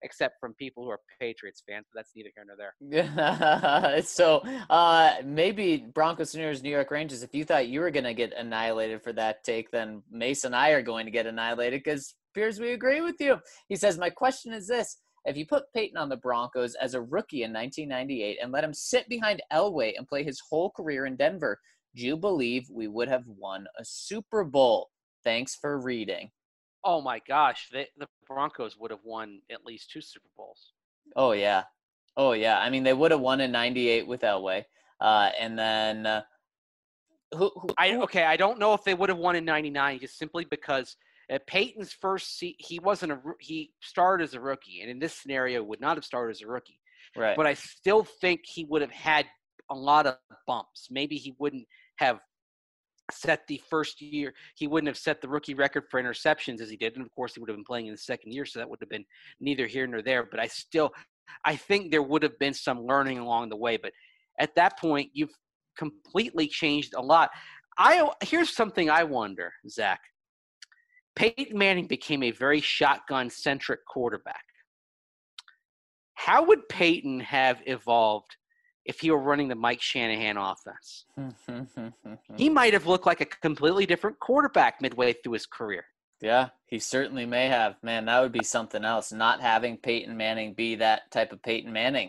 except from people who are Patriots fans, but that's neither here nor there. So uh, maybe Broncos, Sooners, New York Rangers, if you thought you were going to get annihilated for that take, then Mace and I are going to get annihilated because appears we agree with you. He says, my question is this. If you put Peyton on the Broncos as a rookie in nineteen ninety-eight and let him sit behind Elway and play his whole career in Denver, do you believe we would have won a Super Bowl? Thanks for reading. Oh, my gosh. They, the Broncos would have won at least two Super Bowls. Oh, yeah. Oh, yeah. I mean, they would have won in ninety-eight with Elway. Uh, and then uh, who, who, I okay, I don't know if they would have won in ninety-nine just simply because at Peyton's first seat, he wasn't a he started as a rookie, and in this scenario would not have started as a rookie. Right. But I still think he would have had a lot of bumps. Maybe he wouldn't have set the first year. He wouldn't have set the rookie record for interceptions as he did, and of course he would have been playing in the second year, so that would have been neither here nor there. But I still, I think there would have been some learning along the way. But at that point, you've completely changed a lot. I here's something I wonder, Zach. Peyton Manning became a very shotgun-centric quarterback. How would Peyton have evolved if he were running the Mike Shanahan offense? He might have looked like a completely different quarterback midway through his career. Yeah, he certainly may have. Man, that would be something else, not having Peyton Manning be that type of Peyton Manning.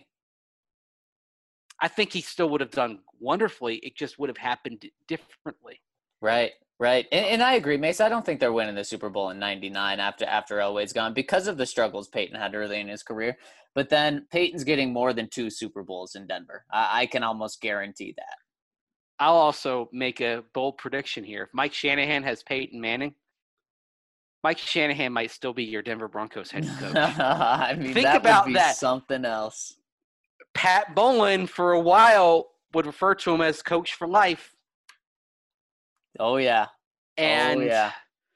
I think he still would have done wonderfully. It just would have happened differently. Right. Right. And, and I agree, Mace. I don't think they're winning the Super Bowl in ninety-nine after after Elway's gone because of the struggles Peyton had early in his career. But then Peyton's getting more than two Super Bowls in Denver. I, I can almost guarantee that. I'll also make a bold prediction here. If Mike Shanahan has Peyton Manning, Mike Shanahan might still be your Denver Broncos head coach. I mean, Think that about would be that. Something else. Pat Bowlen, for a while, would refer to him as coach for life. Oh, yeah. And oh, yeah.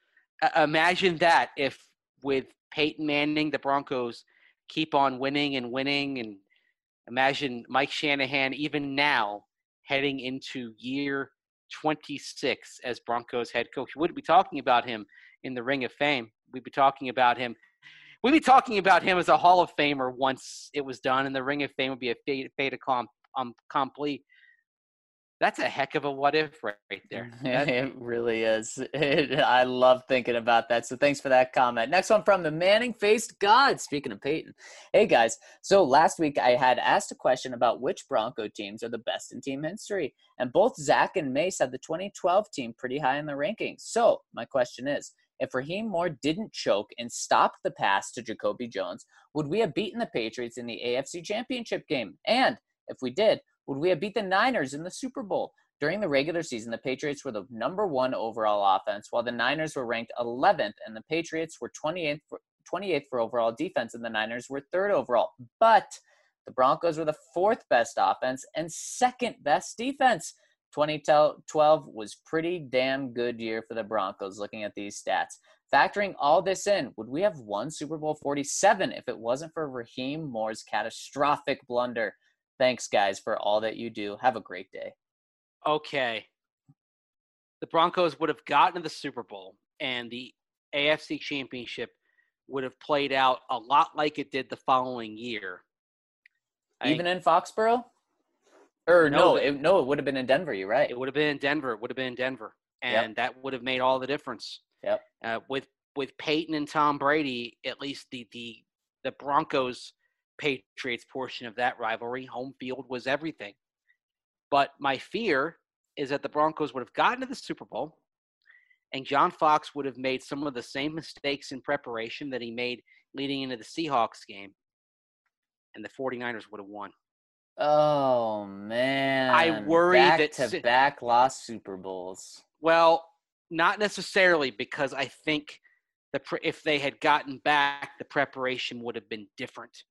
imagine that if with Peyton Manning, the Broncos keep on winning and winning. And imagine Mike Shanahan, even now, heading into year twenty-six as Broncos head coach. We wouldn't be talking about him in the Ring of Fame. We'd be talking about him. We'd be talking about him as a Hall of Famer once it was done, and the Ring of Fame would be a fait, fait accompli. That's a heck of a what if right there. It really is. It, I love thinking about that. So thanks for that comment. Next one from the Manning-faced God. Speaking of Peyton. Hey, guys. So last week I had asked a question about which Bronco teams are the best in team history. And both Zach and Mace had the twenty twelve team pretty high in the rankings. So my question is, if Raheem Moore didn't choke and stop the pass to Jacoby Jones, would we have beaten the Patriots in the A F C Championship game? And if we did, would we have beat the Niners in the Super Bowl? During the regular season, the Patriots were the number one overall offense, while the Niners were ranked eleventh, and the Patriots were twenty-eighth for, twenty-eighth for overall defense, and the Niners were third overall. But the Broncos were the fourth best offense and second best defense. twenty twelve was pretty damn good year for the Broncos, looking at these stats. Factoring all this in, would we have won Super Bowl forty-seven if it wasn't for Raheem Moore's catastrophic blunder? Thanks, guys, for all that you do. Have a great day. Okay. The Broncos would have gotten to the Super Bowl, and the A F C Championship would have played out a lot like it did the following year. Even I, in Foxborough? Or no, no, it, no, it would have been in Denver. You're right. It would have been in Denver. It would have been in Denver. And yep. that would have made all the difference. Yep. Uh, with with Peyton and Tom Brady, at least the the, the Broncos – Patriots portion of that rivalry, home field was everything. But my fear is that the Broncos would have gotten to the Super Bowl and John Fox would have made some of the same mistakes in preparation that he made leading into the Seahawks game, and the 49ers would have won. Oh, man. I worry back that to si- back lost Super Bowls. Well, not necessarily, because I think the pre- if they had gotten back, the preparation would have been different.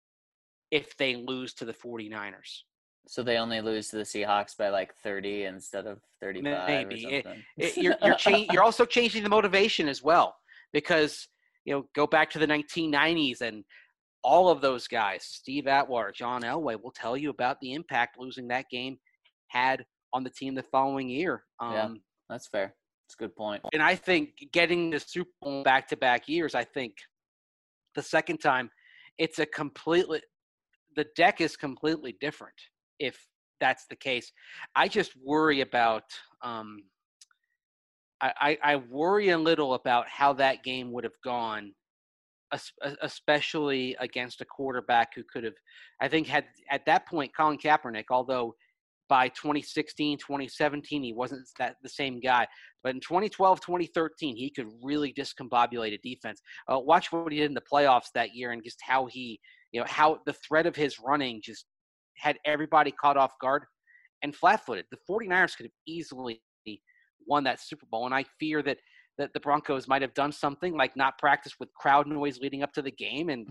If they lose to the 49ers. So they only lose to the Seahawks by like thirty instead of thirty-five Maybe. or something. It, it, you're, you're, cha- you're also changing the motivation as well, because, you know, go back to the nineteen nineties and all of those guys, Steve Atwater, John Elway, will tell you about the impact losing that game had on the team the following year. Um, yeah, that's fair. That's a good point. And I think getting the Super Bowl back-to-back years, I think the second time it's a completely the deck is completely different if that's the case. I just worry about um, I, I worry a little about how that game would have gone, especially against a quarterback who could have, I think, had at that point, Colin Kaepernick, although by twenty sixteen, twenty seventeen, he wasn't that the same guy. But in twenty twelve, twenty thirteen, he could really discombobulate a defense. Uh, watch what he did in the playoffs that year and just how he, you know, how the threat of his running just had everybody caught off guard and flat-footed. The 49ers could have easily won that Super Bowl, and I fear that that the Broncos might have done something like not practice with crowd noise leading up to the game, and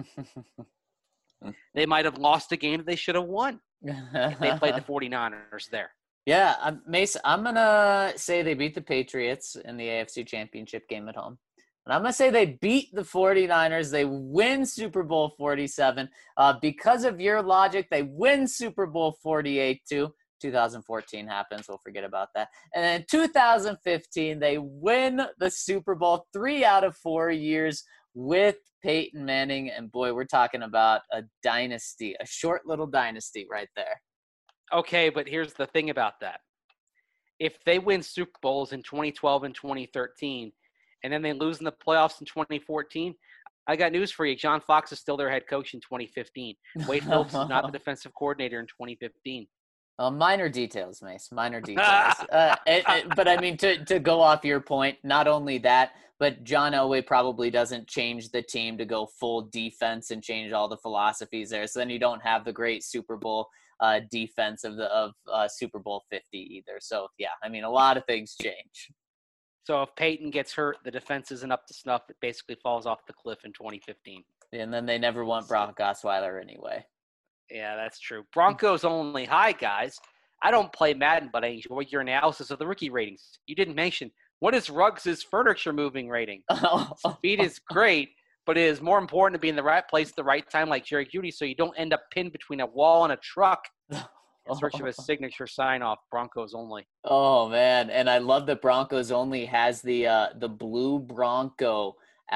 they might have lost a game that they should have won if they played the 49ers there. Yeah, I'm, Mace, I'm going to say they beat the Patriots in the A F C Championship game at home. And I'm going to say they beat the 49ers. They win Super Bowl forty-seven. Uh, because of your logic, they win Super Bowl forty-eight too. two thousand fourteen happens. We'll forget about that. And then two thousand fifteen, they win the Super Bowl three out of four years with Peyton Manning. And boy, we're talking about a dynasty, a short little dynasty right there. Okay, but here's the thing about that. If they win Super Bowls in twenty twelve and twenty thirteen, and then they lose in the playoffs in twenty fourteen, I got news for you. John Fox is still their head coach in twenty fifteen. Wade Phillips is not the defensive coordinator in twenty fifteen. Uh, minor details, Mace. Minor details. uh, it, it, but I mean, to to go off your point, not only that, but John Elway probably doesn't change the team to go full defense and change all the philosophies there. So then you don't have the great Super Bowl uh, defense of the of uh, Super Bowl fifty either. So yeah, I mean, a lot of things change. So if Peyton gets hurt, the defense isn't up to snuff. It basically falls off the cliff in twenty fifteen. And then they never want Brock Osweiler anyway. Yeah, that's true. Broncos only. Hi, guys. I don't play Madden, but I enjoy your analysis of the rookie ratings. You didn't mention, what is Ruggs' furniture moving rating? Speed is great, but it is more important to be in the right place at the right time like Jerry Jeudy so you don't end up pinned between a wall and a truck in search of a signature sign-off. Broncos only. Oh, man. And I love that Broncos only has the uh, the blue Bronco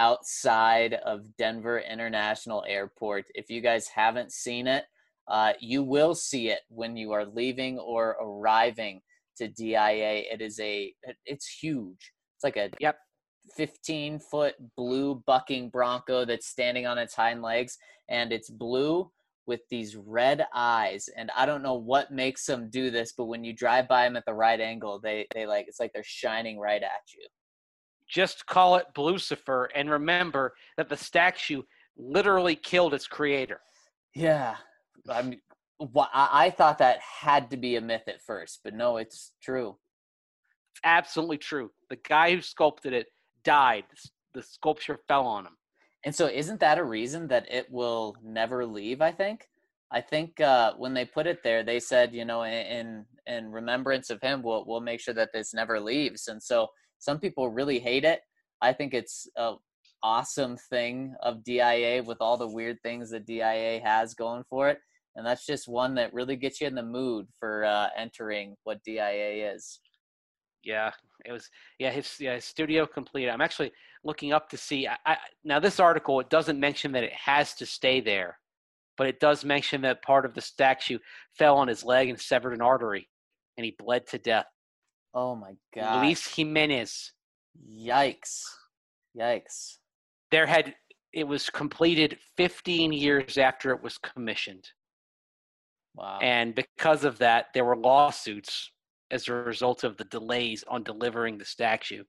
outside of Denver International Airport. If you guys haven't seen it, Uh, you will see it when you are leaving or arriving to D I A. It is a, it's huge. It's like a yep. fifteen foot blue bucking Bronco that's standing on its hind legs, and it's blue with these red eyes. And I don't know what makes them do this, but when you drive by them at the right angle, they, they like, it's like they're shining right at you. Just call it Blucifer, and remember that the statue literally killed its creator. Yeah. I mean, I thought that had to be a myth at first, but no, it's true. It's absolutely true. The guy who sculpted it died. The sculpture fell on him. And so isn't that a reason that it will never leave, I think? I think uh, when they put it there, they said, you know, in in remembrance of him, we'll, we'll make sure that this never leaves. And so some people really hate it. I think it's a awesome thing of D I A with all the weird things that D I A has going for it. And that's just one that really gets you in the mood for uh, entering what D I A is. Yeah, it was. Yeah, his, yeah, his studio complete. I'm actually looking up to see. I, I, now, this article, it doesn't mention that it has to stay there, but it does mention that part of the statue fell on his leg and severed an artery, and he bled to death. Oh, my God. Luis Jimenez. Yikes. Yikes. There had it was completed fifteen years after it was commissioned. Wow. And because of that, there were lawsuits as a result of the delays on delivering the statue.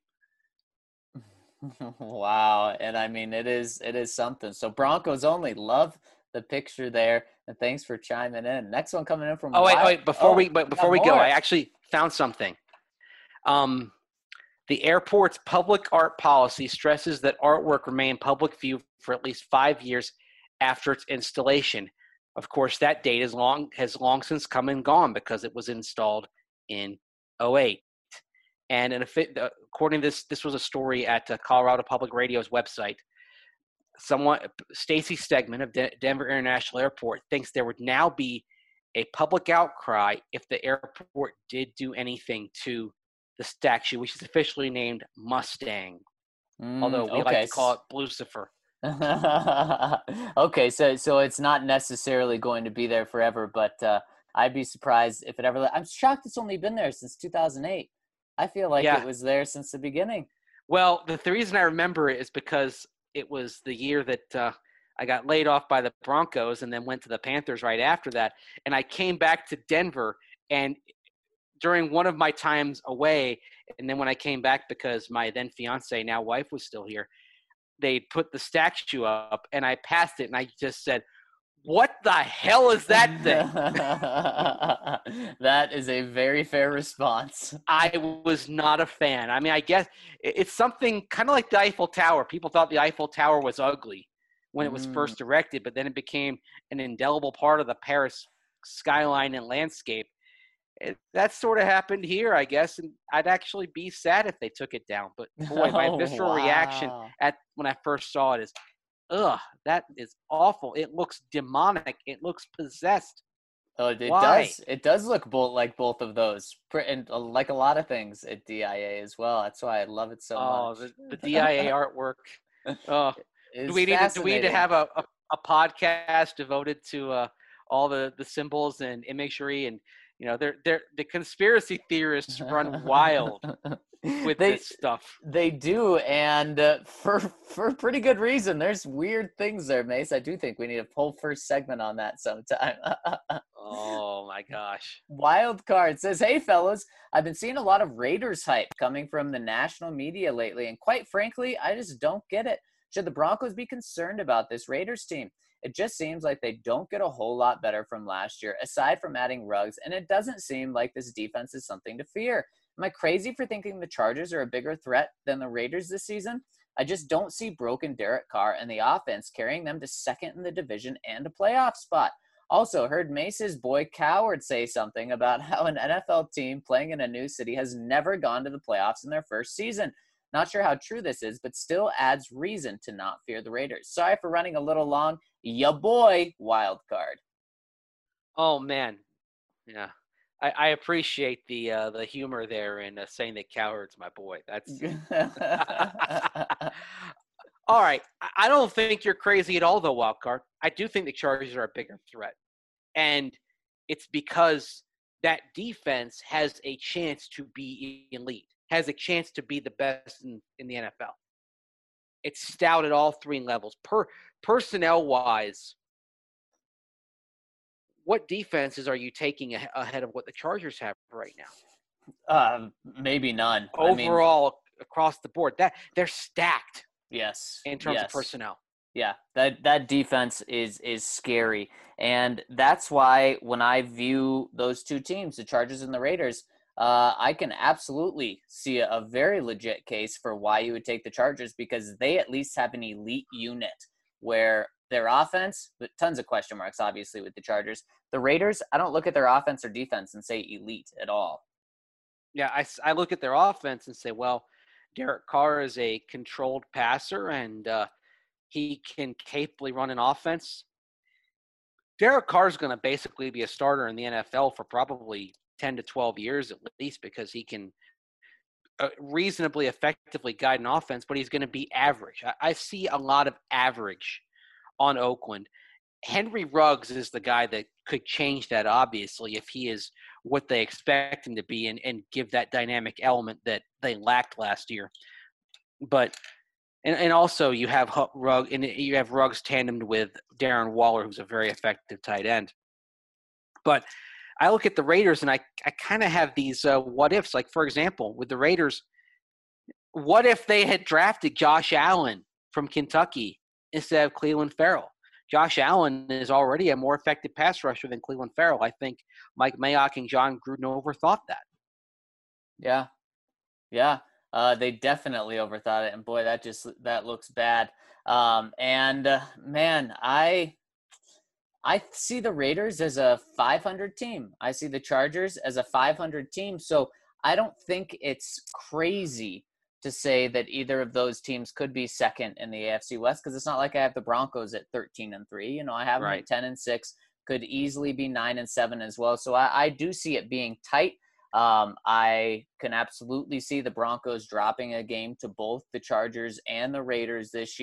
Wow. And I mean, it is it is something. So Broncos only. Love the picture there. And thanks for chiming in. Next one coming in from Oh, wait, Wild- wait, before oh, we but before we more. go, I actually found something. Um The airport's public art policy stresses that artwork remain public view for at least five years after its installation. Of course, that date is long has long since come and gone because it was installed in oh eight. And in a, according to this, this was a story at uh, Colorado Public Radio's website. Someone, Stacy Stegman of De- Denver International Airport, thinks there would now be a public outcry if the airport did do anything to the statue, which is officially named Mustang, Mm, although we okay. like to call it Blucifer. Okay, so so it's not necessarily going to be there forever, but uh, I'd be surprised if it ever. I'm shocked it's only been there since two thousand eight. I feel like it Yeah. was there since the beginning. Well, the, the reason I remember it is because it was the year that uh, I got laid off by the Broncos and then went to the Panthers right after that. And I came back to Denver, and during one of my times away, and then when I came back because my then fiance, now wife, was still here, they put the statue up, and I passed it, and I just said, "What the hell is that thing?" That is a very fair response. I was not a fan. I mean, I guess it's something kind of like the Eiffel Tower. People thought the Eiffel Tower was ugly when it was Mm. first erected, but then it became an indelible part of the Paris skyline and landscape. It, that sort of happened here, I guess, and I'd actually be sad if they took it down. But boy, my Oh, visceral reaction wow. at when I first saw it is, ugh, that is awful. It looks demonic. It looks possessed. Oh, it Why? does. It does look both like both of those, Pr- and uh, like a lot of things at D I A as well. That's why I love it so Oh, much. the, the D I A artwork. Oh, It's do we need to, do we need to fascinating. have a, a, a podcast devoted to uh, all the, the symbols and imagery, and you know they're they're the conspiracy theorists run wild with they this stuff. they do, and uh, for for pretty good reason. There's weird things there, Mace. I do think we need a whole first segment on that sometime. Oh my gosh. Wild card says, "Hey fellas, I've been seeing a lot of Raiders hype coming from the national media lately, and quite frankly, I just don't get it. Should the Broncos be concerned about this Raiders team? It just seems like they don't get a whole lot better from last year, aside from adding Ruggs, and it doesn't seem like this defense is something to fear. Am I crazy for thinking the Chargers are a bigger threat than the Raiders this season? I just don't see broken Derek Carr and the offense carrying them to second in the division and a playoff spot. Also, heard Mace's boy Coward say something about how an N F L team playing in a new city has never gone to the playoffs in their first season. Not sure how true this is, but still adds reason to not fear the Raiders. Sorry for running a little long. Ya boy, wild card." Oh man. Yeah. I, I appreciate the uh, the humor there in uh, saying that Coward's my boy. That's all right. I- I don't think you're crazy at all, though, Wildcard. I do think the Chargers are a bigger threat, and it's because that defense has a chance to be elite, has a chance to be the best in, in the N F L. It's stout at all three levels. Per personnel wise, what defenses are you taking a- ahead of what the Chargers have right now? uh, maybe none. I mean, Overall, across the board, that they're stacked yes. in terms yes. of personnel. Yeah, that that defense is is scary, and that's why when I view those two teams, the Chargers and the Raiders, uh, I can absolutely see a, a very legit case for why you would take the Chargers, because they at least have an elite unit where their offense, but tons of question marks, obviously, with the Chargers. The Raiders, I don't look at their offense or defense and say elite at all. Yeah, I, s- I look at their offense and say, well, Derek Carr is a controlled passer, and uh, he can capably run an offense. Derek Carr is going to basically be a starter in the N F L for probably ten to twelve years at least, because he can uh, reasonably effectively guide an offense, but he's going to be average. I, I see a lot of average on Oakland. Henry Ruggs is the guy that could change that, obviously, if he is what they expect him to be and, and give that dynamic element that they lacked last year. But and, and also you have Ruggs and you have Ruggs tandemed with Darren Waller, who's a very effective tight end. But I look at the Raiders and I, I kind of have these uh, what ifs. Like, for example, with the Raiders, what if they had drafted Josh Allen from Kentucky instead of Cleveland Farrell? Josh Allen is already a more effective pass rusher than Cleveland Farrell. I think Mike Mayock and John Gruden overthought that. Yeah, yeah, uh, they definitely overthought it, and boy, that just that looks bad. Um, and uh, man, I I see the Raiders as a five hundred team. I see the Chargers as a five hundred team. So I don't think it's crazy to say that either of those teams could be second in the A F C West, because it's not like I have the Broncos at thirteen and three. You know, I have them Right. at ten and six, could easily be nine and seven as well. So I, I do see it being tight. Um, I can absolutely see the Broncos dropping a game to both the Chargers and the Raiders this year.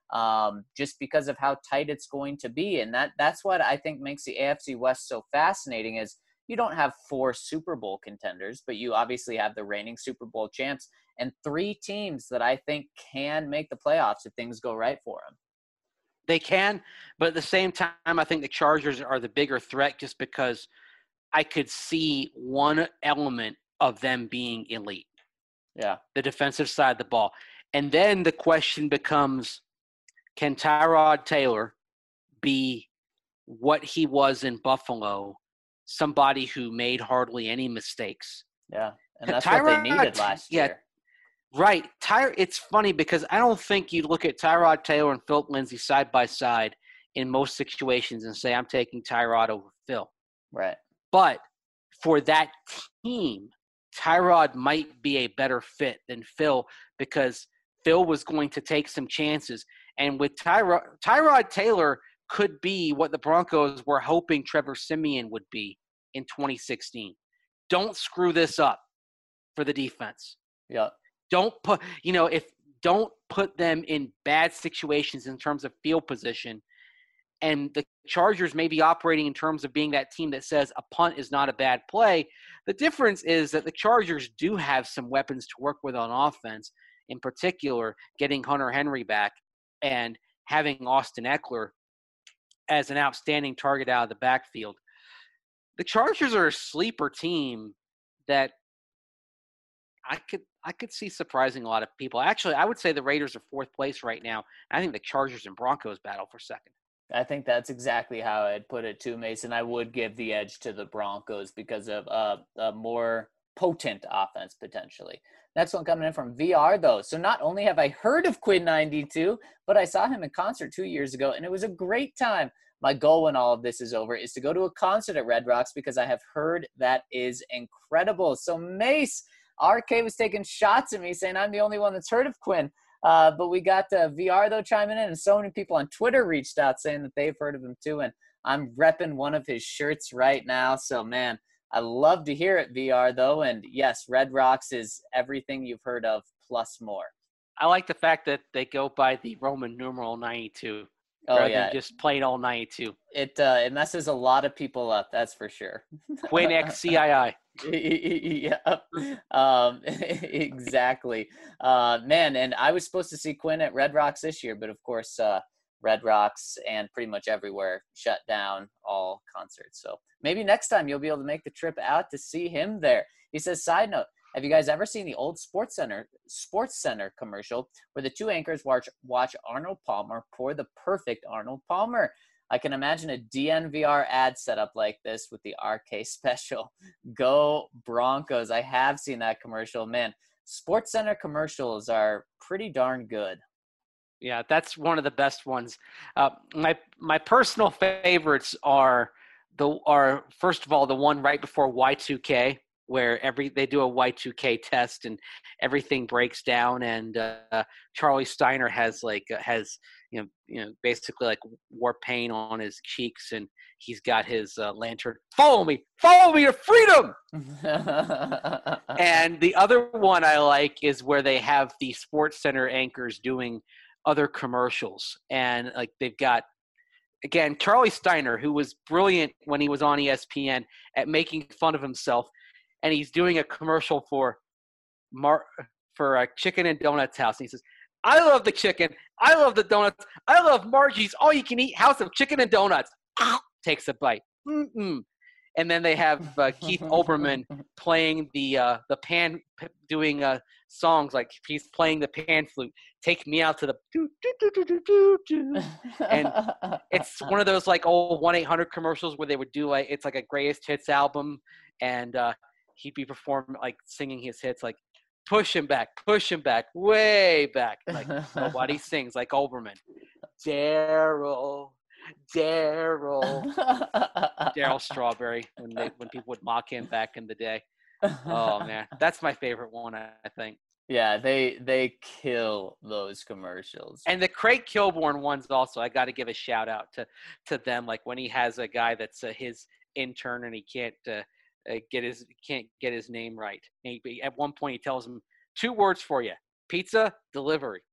um, just because of how tight it's going to be. And that that's what I think makes the A F C West so fascinating is you don't have four Super Bowl contenders, but you obviously have the reigning Super Bowl champs and three teams that I think can make the playoffs if things go right for them. They can, but at the same time, I think the Chargers are the bigger threat just because I could see one element of them being elite. Yeah. The defensive side of the ball. And then the question becomes, can Tyrod Taylor be what he was in Buffalo, somebody who made hardly any mistakes? Yeah, and that's Tyrod, what they needed last yeah, year. Right. Ty- it's funny because I don't think you look at Tyrod Taylor and Philip Lindsay side by side in most situations and say, I'm taking Tyrod over Phil. Right. But for that team, Tyrod might be a better fit than Phil because Phil was going to take some chances. And with Tyrod, Tyrod Taylor could be what the Broncos were hoping Trevor Siemian would be in twenty sixteen. Don't screw this up for the defense. Yeah. Don't put, you know, if don't put them in bad situations in terms of field position. And the Chargers may be operating in terms of being that team that says a punt is not a bad play. The difference is that the Chargers do have some weapons to work with on offense, in particular getting Hunter Henry back and having Austin Eckler as an outstanding target out of the backfield. The Chargers are a sleeper team that I could I could see surprising a lot of people. Actually, I would say the Raiders are fourth place right now. I think the Chargers and Broncos battle for second. I think that's exactly how I'd put it too, Mason. I would give the edge to the Broncos because of uh, a more potent offense potentially. Next one coming in from V R though. So not only have I heard of Quinn ninety-two, but I saw him in concert two years ago and it was a great time. My goal when all of this is over is to go to a concert at Red Rocks because I have heard that is incredible. So Mace, R K was taking shots at me saying I'm the only one that's heard of Quinn. Uh, but we got uh, V R, though, chiming in, and so many people on Twitter reached out saying that they've heard of him, too. And I'm repping one of his shirts right now. So, man, I love to hear it, V R, though. And, yes, Red Rocks is everything you've heard of plus more. I like the fact that they go by the Roman numeral ninety-two Oh, rather yeah. than just plain old ninety-two. It, uh, it messes a lot of people up, that's for sure. Quinn X C I I. Yeah, um, exactly. Uh, man, and I was supposed to see Quinn at Red Rocks this year, but of course, uh, Red Rocks and pretty much everywhere shut down all concerts. So maybe next time you'll be able to make the trip out to see him there. He says, side note, have you guys ever seen the old Sports Center Sports Center commercial where the two anchors watch watch Arnold Palmer pour the perfect Arnold Palmer? I can imagine a D N V R ad setup like this with the R K special. Go Broncos. I have seen that commercial. Man, Sports Center commercials are pretty darn good. Yeah, that's one of the best ones. Uh, my my personal favorites are the are first of all the one right before Y two K where every they do a Y two K test and everything breaks down and uh, Charlie Steiner has like uh, has you know you know basically like war paint on his cheeks and he's got his uh, lantern. Follow me, follow me to freedom. And the other one I like is where they have the Sports Center anchors doing other commercials and like they've got again Charlie Steiner who was brilliant when he was on E S P N at making fun of himself. And he's doing a commercial for Mar- for a chicken and donuts house. And he says, I love the chicken. I love the donuts. I love Margie's all-you-can-eat house of chicken and donuts. Ow! Takes a bite. Mm-mm. And then they have uh, Keith Olbermann playing the uh, the pan, doing uh, songs like he's playing the pan flute. Take me out to the do do do do do do do. And it's one of those like old one eight hundred commercials where they would do like it's like a greatest hits album, and uh, he'd be performing like singing his hits like push him back, push him back, way back. Like nobody sings like Olbermann. Daryl. Daryl, Daryl Strawberry. When they when people would mock him back in the day. Oh man, that's my favorite one. I think. Yeah, they they kill those commercials. And the Craig Kilborn ones also. I got to give a shout out to to them. Like when he has a guy that's uh, his intern and he can't uh, uh, get his can't get his name right. And he, at one point he tells him two words for you: pizza delivery.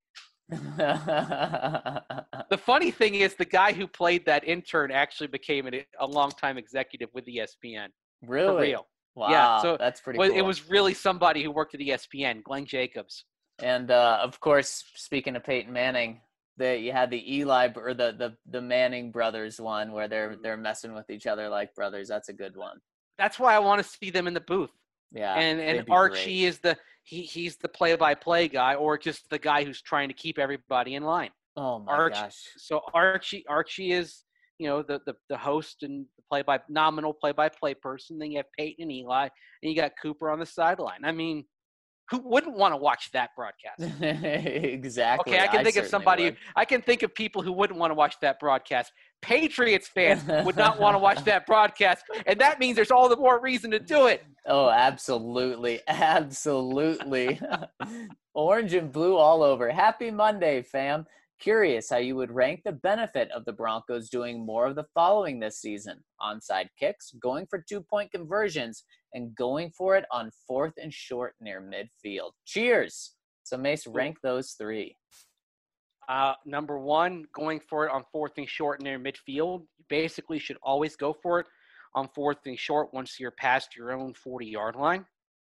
The funny thing is the guy who played that intern actually became a, a longtime executive with E S P N. Really? For real. Wow. Yeah, so that's pretty well, cool. it was really somebody who worked at E S P N, Glenn Jacobs. And, uh, of course, speaking of Peyton Manning, the, you had the Eli or the, the, the Manning brothers one where they're they're messing with each other like brothers. That's a good one. That's why I want to see them in the booth. Yeah. And and they'd be Archie great. is the he he's the play-by-play guy, or just the guy who's trying to keep everybody in line. Oh my Archie, gosh. So Archie Archie is, you know, the, the, the host and the play by nominal play by play person. Then you have Peyton and Eli, and you got Cooper on the sideline. I mean, who wouldn't want to watch that broadcast? Exactly. Okay, I can think of somebody. Would. I can think of people who wouldn't want to watch that broadcast. Patriots fans would not want to watch that broadcast, and that means there's all the more reason to do it. Oh, absolutely. Absolutely. Orange and blue all over. Happy Monday, fam. Curious how you would rank the benefit of the Broncos doing more of the following this season: onside kicks, going for two-point conversions, and going for it on fourth and short near midfield. Cheers. So, Mace, rank those three. Uh, number one, going for it on fourth and short near midfield. You basically should always go for it on fourth and short once you're past your own forty-yard line,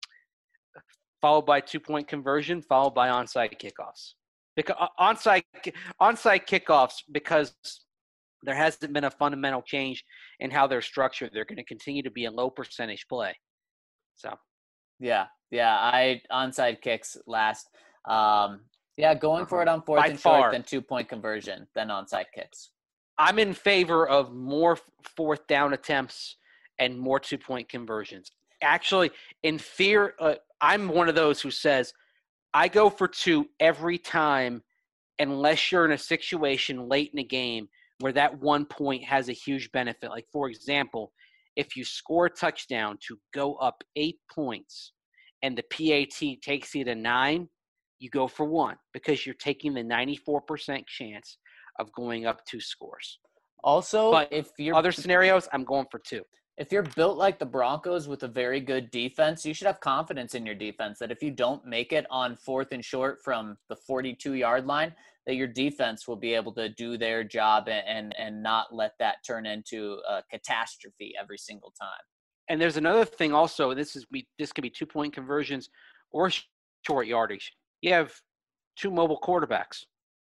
followed by two-point conversion, followed by onside kickoffs. Because onside onside kickoffs, because there hasn't been a fundamental change in how they're structured. They're going to continue to be a low percentage play. So, yeah, yeah, I onside kicks last. Um, yeah, going for it on fourth By and far. short, then two-point conversion, then onside kicks. I'm in favor of more fourth down attempts and more two-point conversions. Actually, in fear, uh, I'm one of those who says, I go for two every time unless you're in a situation late in the game where that one point has a huge benefit. Like, for example, if you score a touchdown to go up eight points and the P A T takes you to nine, you go for one because you're taking the ninety-four percent chance of going up two scores. Also, But if you're other scenarios, I'm going for two. If you're built like the Broncos with a very good defense, you should have confidence in your defense that if you don't make it on fourth and short from the forty-two-yard line, that your defense will be able to do their job and, and, and not let that turn into a catastrophe every single time. And there's another thing also. This is we. This could be two-point conversions or short yardage. You have two mobile quarterbacks.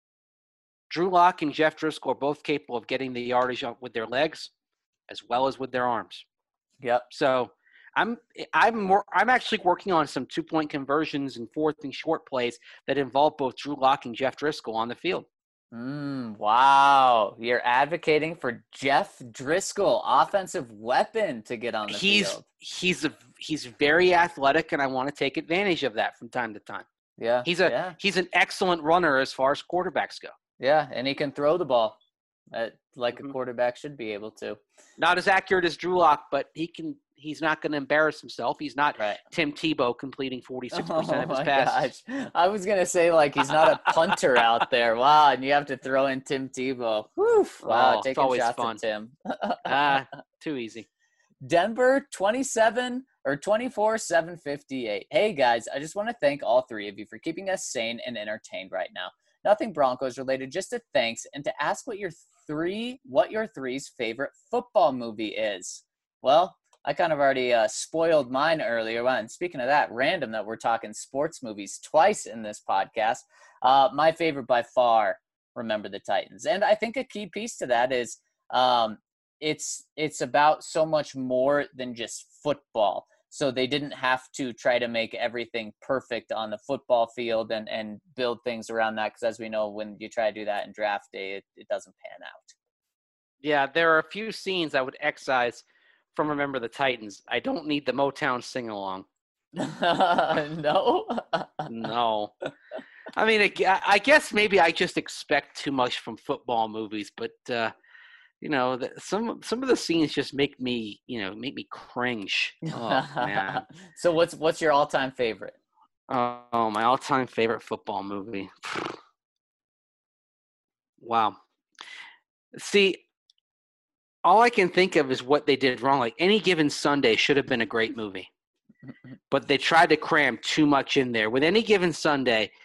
Drew Lock and Jeff Driscoll are both capable of getting the yardage up with their legs as well as with their arms. Yep. So I'm I'm more I'm actually working on some two-point conversions and fourth and short plays that involve both Drew Lock and Jeff Driscoll on the field. Mm, wow. You're advocating for Jeff Driscoll, offensive weapon, to get on the he's, field. He's a, he's very athletic, and I want to take advantage of that from time to time. Yeah. He's a yeah. he's an excellent runner as far as quarterbacks go. Yeah, and he can throw the ball uh, like Mhm. a quarterback should be able to. Not as accurate as Drew Lock, but he can. He's not going to embarrass himself. He's not Right. Tim Tebow completing forty-six percent Oh of his my passes. gosh. I was going to say, like, he's not a punter out there. Wow, and you have to throw in Tim Tebow. Whew. Wow, Oh, it's taking always shots fun. at Tim. Ah, too easy. Denver twenty-seven or twenty-four seven fifty-eight. Hey guys, I just want to thank all three of you for keeping us sane and entertained right now. Nothing Broncos related, just a thanks and to ask what your three what your three's favorite football movie is. Well, I kind of already uh, spoiled mine earlier. And speaking of that, random that we're talking sports movies twice in this podcast. Uh, my favorite by far, Remember the Titans. And I think a key piece to that is um, it's it's about so much more than just football. So they didn't have to try to make everything perfect on the football field and, and build things around that. Because as we know, when you try to do that in draft day, it, it doesn't pan out. Yeah, there are a few scenes I would excise from Remember the Titans. I don't need the Motown sing-along. No? No. I mean, I I guess maybe I just expect too much from football movies, but, uh, you know, the, some some of the scenes just make me, you know, make me cringe. Oh, man. So what's what's your all-time favorite? Oh, my all-time favorite football movie. Wow. See, all I can think of is what they did wrong. Like, Any Given Sunday should have been a great movie, but they tried to cram too much in there. With Any Given Sunday,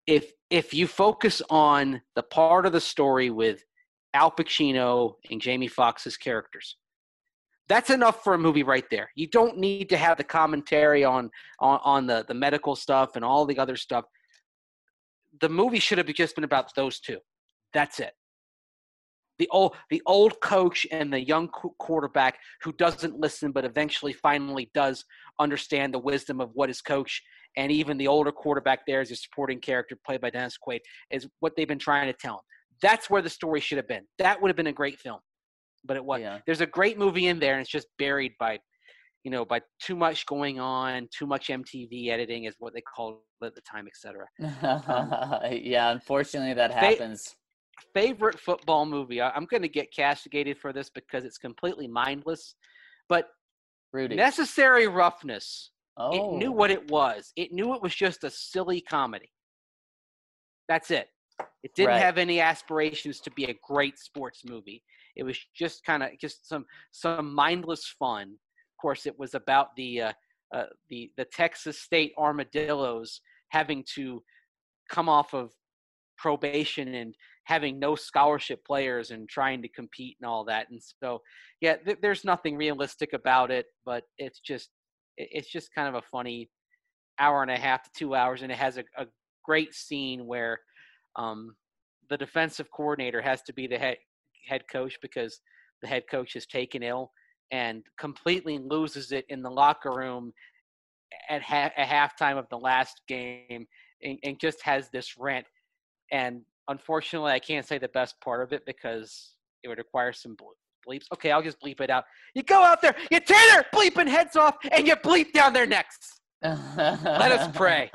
if if you focus on the part of the story with Al Pacino and Jamie Foxx's characters, that's enough for a movie right there. You don't need to have the commentary on on, on the, the medical stuff and all the other stuff. The movie should have just been about those two. That's it. The old the old coach and the young qu- quarterback who doesn't listen but eventually finally does understand the wisdom of what his coach, and even the older quarterback there is a supporting character played by Dennis Quaid, is what they've been trying to tell him. That's where the story should have been. That would have been a great film. But it was. Yeah. There's a great movie in there, and it's just buried by, you know, by too much going on, too much M T V editing is what they called it at the time, et cetera. Um, yeah, unfortunately that fa- happens. Favorite football movie. I, I'm going to get castigated for this because it's completely mindless, but Rudy. Necessary Roughness. Oh. It knew what it was. It knew it was just a silly comedy. That's it. It didn't Right. have any aspirations to be a great sports movie. It was just kind of just some some mindless fun. Of course, it was about the uh, uh, the the Texas State Armadillos having to come off of probation and having no scholarship players and trying to compete and all that. And so, yeah, th- there's nothing realistic about it, but it's just it- it's just kind of a funny hour and a half to two hours, and it has a, a great scene where um, the defensive coordinator has to be the head head coach because the head coach is taken ill and completely loses it in the locker room at, ha- at halftime of the last game, and, and just has this rant. And unfortunately, I can't say the best part of it because it would require some bleeps. Okay, I'll just bleep it out. You go out there, you tear their bleeping heads off, and you bleep down their necks. Let us pray.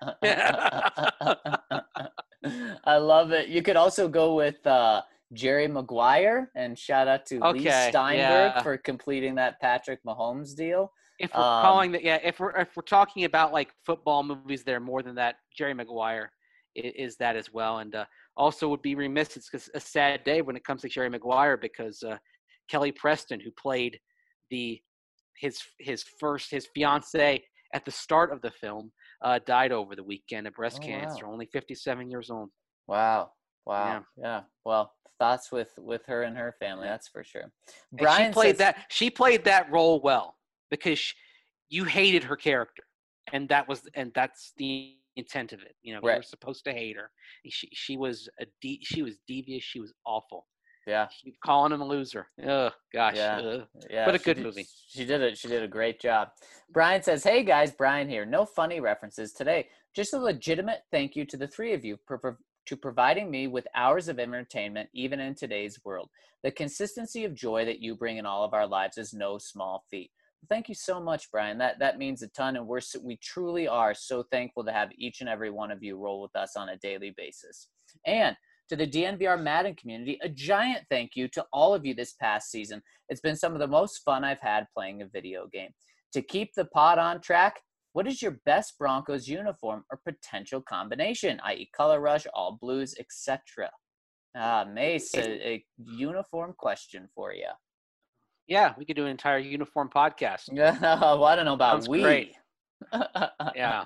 I love it. You could also go with uh, Jerry Maguire, and shout out to Lee Okay, Steinberg yeah. for completing that Patrick Mahomes deal. If we're Um, calling that, yeah, if we're if we're talking about like football movies, that are more than that. Jerry Maguire is, is that as well, and uh, also would be remiss. It's a sad day when it comes to Jerry Maguire because uh, Kelly Preston, who played the his his first his fiance at the start of the film, uh, died over the weekend of breast Oh, cancer, wow. only fifty-seven years old. Wow. Wow. Yeah. Yeah. Well, thoughts with with her and her family, that's for sure. And Brian she played says, that she played that role well because she, you hated her character, and that was and that's the intent of it. You know, Right. you were supposed to hate her. She she was a de- she was devious. She was awful. yeah. Keep calling him a loser. Oh gosh. Yeah. Ugh. Yeah, But a she good did- movie. She did it. She did a great job. Brian says, "Hey guys, Brian here. No funny references today. Just a legitimate thank you to the three of you for, for to providing me with hours of entertainment, even in today's world. The consistency of joy that you bring in all of our lives is no small feat." Thank you so much, Brian. That that means a ton, and we're so, we truly are so thankful to have each and every one of you roll with us on a daily basis. And to the D N V R Madden community, a giant thank you to all of you this past season. It's been some of the most fun I've had playing a video game. To keep the pod on track, what is your best Broncos uniform or potential combination, that is color rush, all blues, et cetera? Ah, Mace, a, a uniform question for you. Yeah, we could do an entire uniform podcast. well, I don't know about Sounds we. great. Yeah.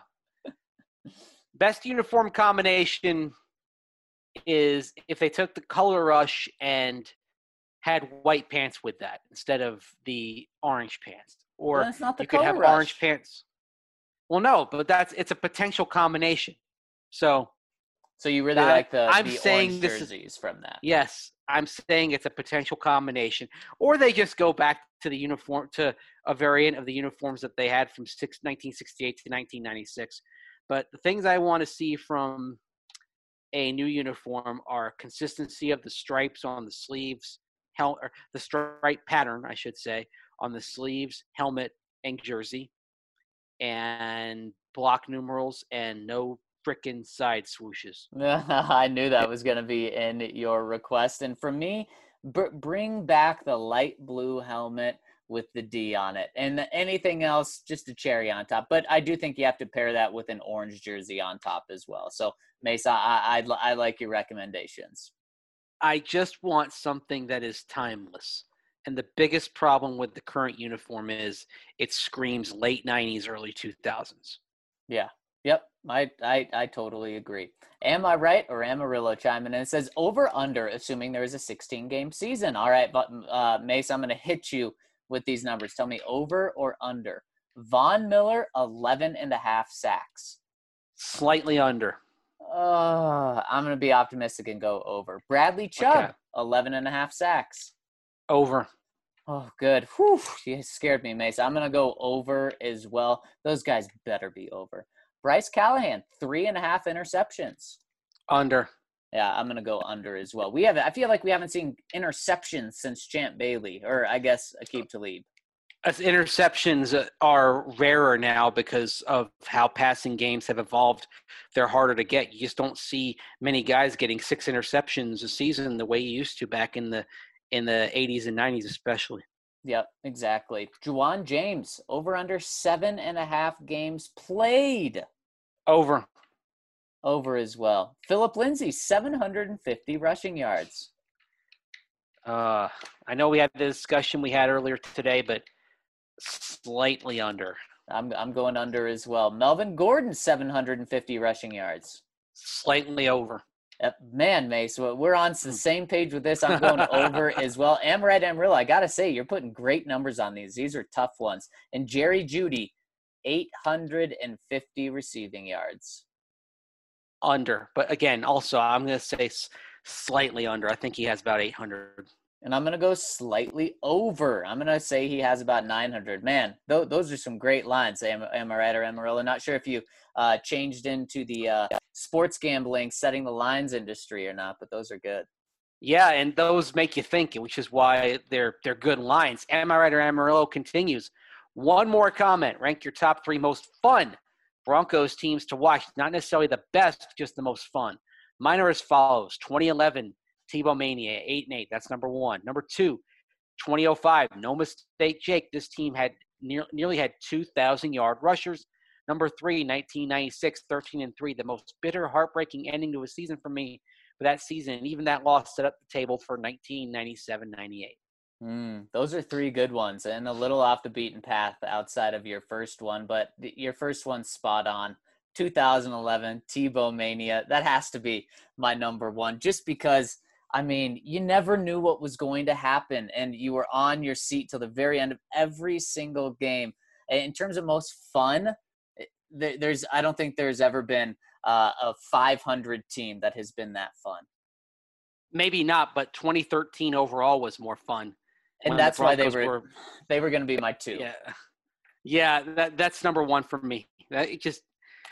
Best uniform combination is if they took the color rush and had white pants with that instead of the orange pants. Or Well, that's not the you could color have rush. orange pants. Well, no, but that's it's a potential combination. So So you really That- like the, I'm the saying orange this is- jerseys from that? yes, I'm saying it's a potential combination. Or they just go back to the uniform to a variant of the uniforms that they had from six, nineteen sixty-eight to nineteen ninety-six. But the things I want to see from a new uniform are consistency of the stripes on the sleeves, hel- or the stripe pattern, I should say, on the sleeves, helmet, and jersey, and block numerals, and no frickin' side swooshes. I knew that was going to be in your request. And for me, br- bring back the light blue helmet with the D on it. And anything else, just a cherry on top. But I do think you have to pair that with an orange jersey on top as well. So, Mesa, I, I, I like your recommendations. I just want something that is timeless. And the biggest problem with the current uniform is it screams late nineties, early two thousands. Yeah. Yep, I, I I totally agree. Am I right or Amarillo chiming in? It says over under, assuming there is a sixteen game season. All right, but uh, Mace, I'm going to hit you with these numbers. Tell me over or under. Von Miller, eleven and a half sacks. Slightly under. Uh, I'm going to be optimistic and go over. Bradley Chubb, Okay. eleven and a half sacks. Over. Oh, good. Whew, you scared me, Mace. I'm going to go over as well. Those guys better be over. Bryce Callahan, three and a half interceptions. Under. Yeah, I'm going to go under as well. We have, I feel like we haven't seen interceptions since Champ Bailey, or I guess Aqib Talib. As interceptions are rarer now because of how passing games have evolved. They're harder to get. You just don't see many guys getting six interceptions a season the way you used to back in the in the eighties and nineties especially. Yep, exactly. Juwan James, over under seven and a half games played. Over. Over as well. Philip Lindsay, seven hundred fifty rushing yards. Uh, I know we had the discussion we had earlier today, but slightly under. I'm I'm going under as well. Melvin Gordon, seven hundred fifty rushing yards. Slightly over. Uh, man, Mace, we're on the same page with this. I'm going over as well. Amaret Amarillo, I got to say, you're putting great numbers on these. These are tough ones. And Jerry Jeudy, eight hundred fifty receiving yards. Under. But again, also, I'm going to say s- slightly under. I think he has about eight hundred. And I'm going to go slightly over. I'm going to say he has about nine hundred. Man, th- those are some great lines. Am, am I right or Amarillo? Not sure if you uh, changed into the uh, sports gambling, setting the lines industry or not, but those are good. Yeah, and those make you think, which is why they're they're good lines. Am I right or Amarillo continues. One more comment. Rank your top three most fun Broncos teams to watch. Not necessarily the best, just the most fun. Mine are as follows. twenty eleven, Tebow Mania, eight and eight. That's number one. Number two, twenty oh five, no mistake, Jake. This team had near, nearly had two thousand yard rushers. Number three, nineteen ninety-six, thirteen and three. The most bitter, heartbreaking ending to a season for me for that season. And even that loss set up the table for nineteen ninety-seven ninety-eight. Mm, those are three good ones and a little off the beaten path outside of your first one, but the, your first one's spot on. two thousand eleven, Tebow Mania. That has to be my number one just because, I mean, you never knew what was going to happen and you were on your seat till the very end of every single game. In terms of most fun, there, there's I don't think there's ever been uh, a five hundred team that has been that fun. Maybe not, but twenty thirteen overall was more fun. And that's the why they Broncos were, they were going to be my two. Yeah, yeah, that that's number one for me. That it just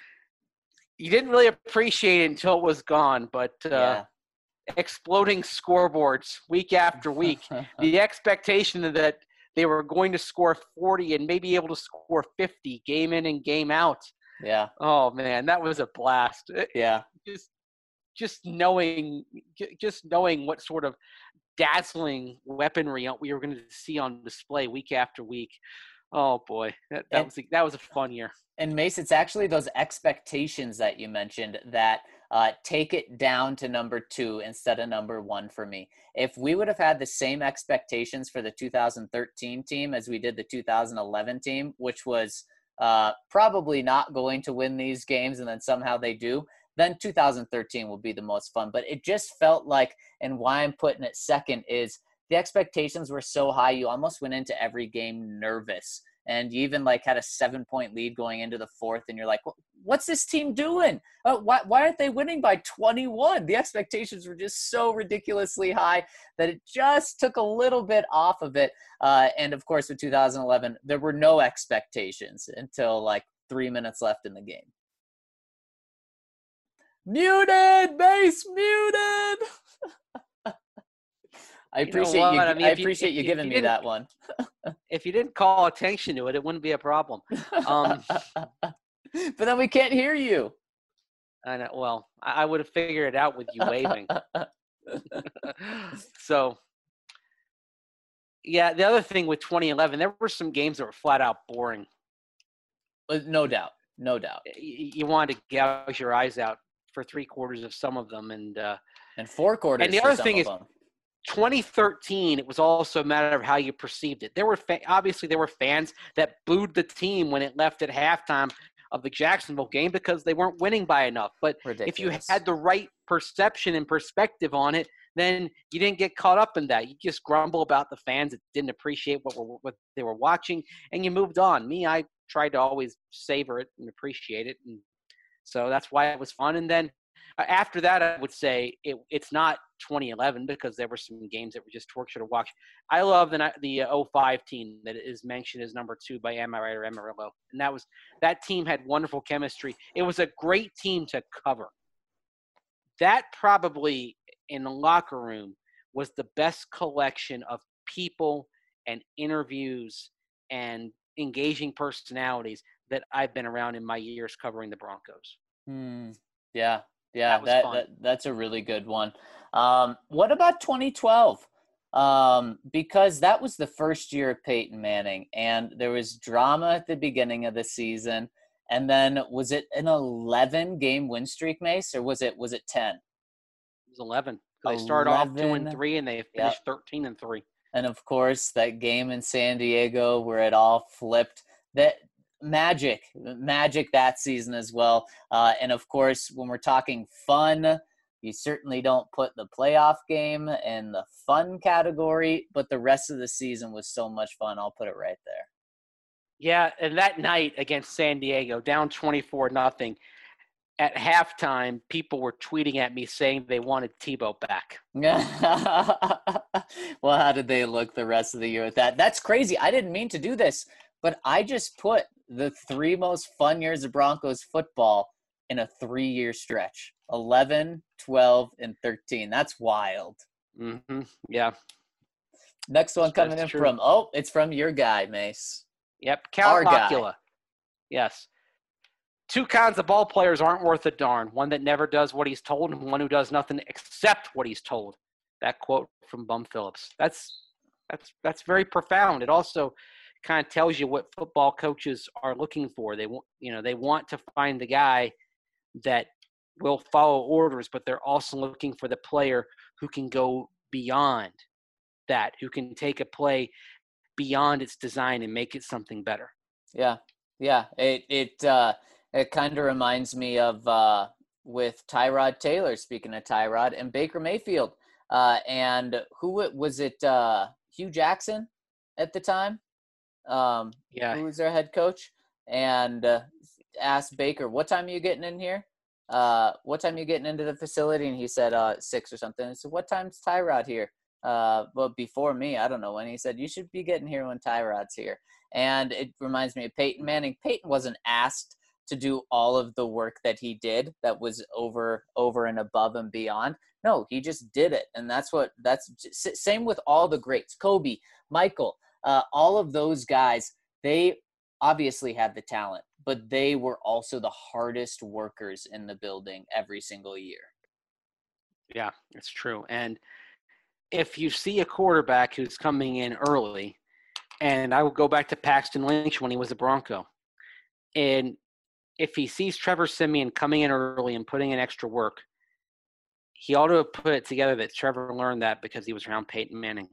you didn't really appreciate it until it was gone, but uh, Yeah. exploding scoreboards week after week, the expectation that they were going to score forty and maybe able to score fifty game in and game out. Yeah. Oh man, that was a blast. Yeah. Just just knowing just knowing what sort of dazzling weaponry we were going to see on display week after week. Oh boy, that, that And- was a, that was a fun year. And Mace, it's actually those expectations that you mentioned that uh, take it down to number two instead of number one for me. If we would have had the same expectations for the two thousand thirteen team as we did the two thousand eleven team, which was uh, probably not going to win these games, and then somehow they do, then two thousand thirteen will be the most fun. But it just felt like, and why I'm putting it second is the expectations were so high, you almost went into every game nervous. And you even like had a seven point lead going into the fourth. And you're like, what's this team doing? Uh, why, why aren't they winning by twenty-one? The expectations were just so ridiculously high that it just took a little bit off of it. Uh, and of course, with two thousand eleven, there were no expectations until like three minutes left in the game. Muted, base muted. I You know appreciate what? you. I mean, I if you- appreciate if- you if giving you me didn't- that one. If you didn't call attention to it, it wouldn't be a problem. Um, But then we can't hear you. I know, well, I, I would have figured it out with you waving. So, yeah, the other thing with twenty eleven, there were some games that were flat out boring. No doubt. No doubt. You, you wanted to gouge your eyes out for three quarters of some of them, and uh, And four quarters. And the for other some thing of is- them. twenty thirteen, it was also a matter of how you perceived it. There were fa- obviously there were fans that booed the team when it left at halftime of the Jacksonville game because they weren't winning by enough. But Ridiculous. If you had the right perception and perspective on it, then you didn't get caught up in that. You just grumble about the fans that didn't appreciate what were, what they were watching, and you moved on. Me, I tried to always savor it and appreciate it, and so that's why it was fun. And then uh, after that, I would say it, it's not twenty eleven because there were some games that were just torture to watch. I love the the oh five team that is mentioned as number two by Am I Right or Amarillo, and that was that team had wonderful chemistry. It was a great team to cover. That probably in the locker room was the best collection of people and interviews and engaging personalities that I've been around in my years covering the Broncos. Hmm. Yeah. Yeah. That was That, fun. that that's a really good one. Um, what about twenty twelve? Um, because that was the first year of Peyton Manning, and there was drama at the beginning of the season. And then was it an eleven game win streak, Mace, or was it was it ten? It was eleven. They started off two and eleven. three, and they finished thirteen and three. And of course, that game in San Diego where it all flipped. That magic, magic that season as well. Uh, and of course, when we're talking fun, you certainly don't put the playoff game in the fun category, but the rest of the season was so much fun. I'll put it right there. Yeah, and that night against San Diego, down twenty-four nothing, at halftime, people were tweeting at me saying they wanted Tebow back. Well, how did they look the rest of the year with that? That's crazy. I didn't mean to do this, but I just put the three most fun years of Broncos football in a three-year stretch. eleven, twelve, and thirteen. That's wild. Mm-hmm. Yeah. Next one coming That's in true. from, oh, it's from your guy, Mace. Yep. Our Count guy. Locula. Yes. Two kinds of ball players aren't worth a darn. One that never does what he's told and one who does nothing except what he's told. That quote from Bum Phillips. That's that's that's very profound. It also kind of tells you what football coaches are looking for. They want, you know, they want to find the guy that will follow orders, but they're also looking for the player who can go beyond that, who can take a play beyond its design and make it something better. Yeah, yeah. It it uh, it kind of reminds me of uh, with Tyrod Taylor. Speaking of Tyrod and Baker Mayfield, uh, and who was it? Uh, Hugh Jackson at the time. Um, Yeah. who was their head coach? And uh, asked Baker, "What time are you getting in here? Uh, what time are you getting into the facility?" And he said, uh, six or something. I said, "What time's Tyrod here?" Uh, but before me, I don't know when. He said, "You should be getting here when Tyrod's here." And it reminds me of Peyton Manning. Peyton wasn't asked to do all of the work that he did that was over over and above and beyond. No, he just did it. And that's what that's just, same with all the greats. Kobe, Michael, uh, all of those guys, they obviously had the talent, but they were also the hardest workers in the building every single year. Yeah, it's true. And if you see a quarterback who's coming in early, and I will go back to Paxton Lynch when he was a Bronco, and if he sees Trevor Siemian coming in early and putting in extra work, he ought to have put it together that Trevor learned that because he was around Peyton Manning.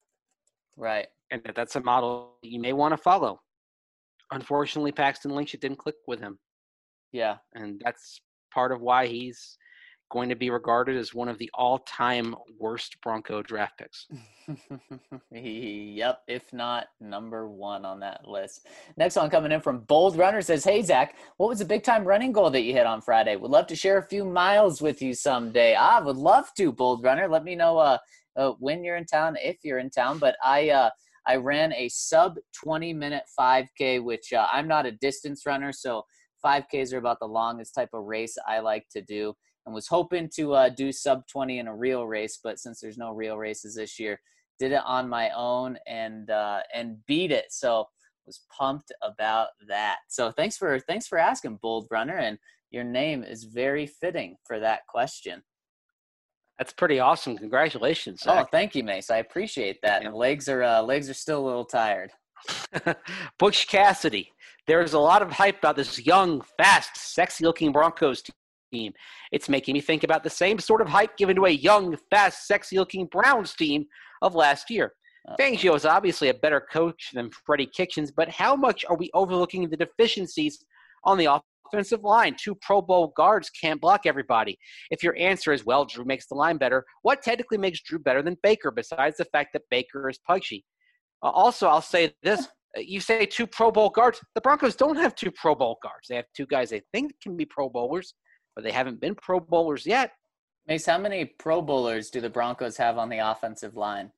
Right. And that that's a model you may want to follow. Unfortunately, Paxton Lynch, it didn't click with him. Yeah. And that's part of why he's going to be regarded as one of the all-time worst Bronco draft picks. Yep, if not number one on that list. Next one coming in from Bold Runner says, "Hey, Zach, what was the big-time running goal that you hit on Friday? Would love to share a few miles with you someday." I would love to, Bold Runner. Let me know uh, uh, when you're in town, if you're in town. But I uh, I ran a sub twenty-minute five K, which uh, I'm not a distance runner, so five Ks are about the longest type of race I like to do. And was hoping to uh, do sub twenty in a real race, but since there's no real races this year, did it on my own and uh, and beat it. So was pumped about that. So thanks for thanks for asking, Bold Runner, and your name is very fitting for that question. That's pretty awesome. Congratulations, Oh, Zach. thank you, Mace. I appreciate that. Yeah. The legs are uh, legs are still a little tired. Butch Cassidy. There's a lot of hype about this young, fast, sexy-looking Broncos team. It's making me think about the same sort of hype given to a young, fast, sexy-looking Browns team of last year. Uh, Fangio is obviously a better coach than Freddie Kitchens, but how much are we overlooking the deficiencies on the offensive line. Two Pro Bowl guards can't block everybody. If your answer is, well, Drew makes the line better, what technically makes Drew better than Baker besides the fact that Baker is pudgy? Uh, also, I'll say this. You say two Pro Bowl guards. The Broncos don't have two Pro Bowl guards. They have two guys they think can be Pro Bowlers, but they haven't been Pro Bowlers yet. Mace, how many Pro Bowlers do the Broncos have on the offensive line?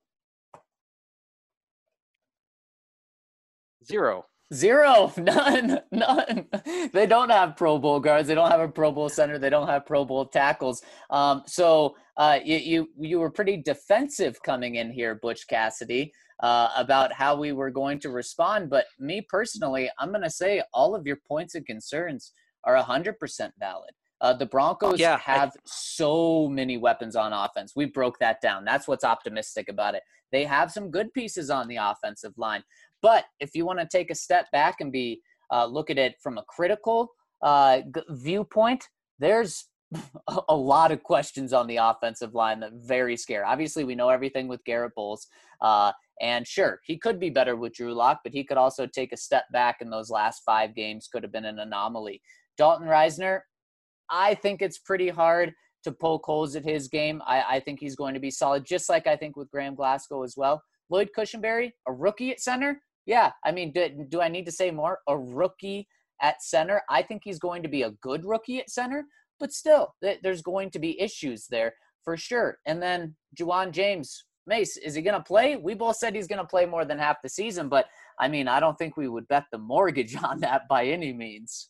Zero. Zero. None. None. They don't have Pro Bowl guards. They don't have a Pro Bowl center. They don't have Pro Bowl tackles. Um, so uh, you, you you were pretty defensive coming in here, Butch Cassidy, uh, about how we were going to respond. But me personally, I'm going to say all of your points and concerns are one hundred percent valid. Uh, the Broncos yeah, have I, so many weapons on offense. We broke that down. That's what's optimistic about it. They have some good pieces on the offensive line. But if you want to take a step back and be uh, look at it from a critical uh, g- viewpoint, there's a lot of questions on the offensive line that very scare. Obviously, we know everything with Garrett Bowles. Uh, and sure, he could be better with Drew Lock, but he could also take a step back in those last five games, could have been an anomaly. Dalton Reisner, I think it's pretty hard to poke holes at his game. I, I think he's going to be solid, just like I think with Graham Glasgow as well. Lloyd Cushenberry, a rookie at center? Yeah, I mean, do, do I need to say more? A rookie at center? I think he's going to be a good rookie at center, but still, th- there's going to be issues there for sure. And then Juwan James, Mace, is he going to play? We both said he's going to play more than half the season, but I mean, I don't think we would bet the mortgage on that by any means.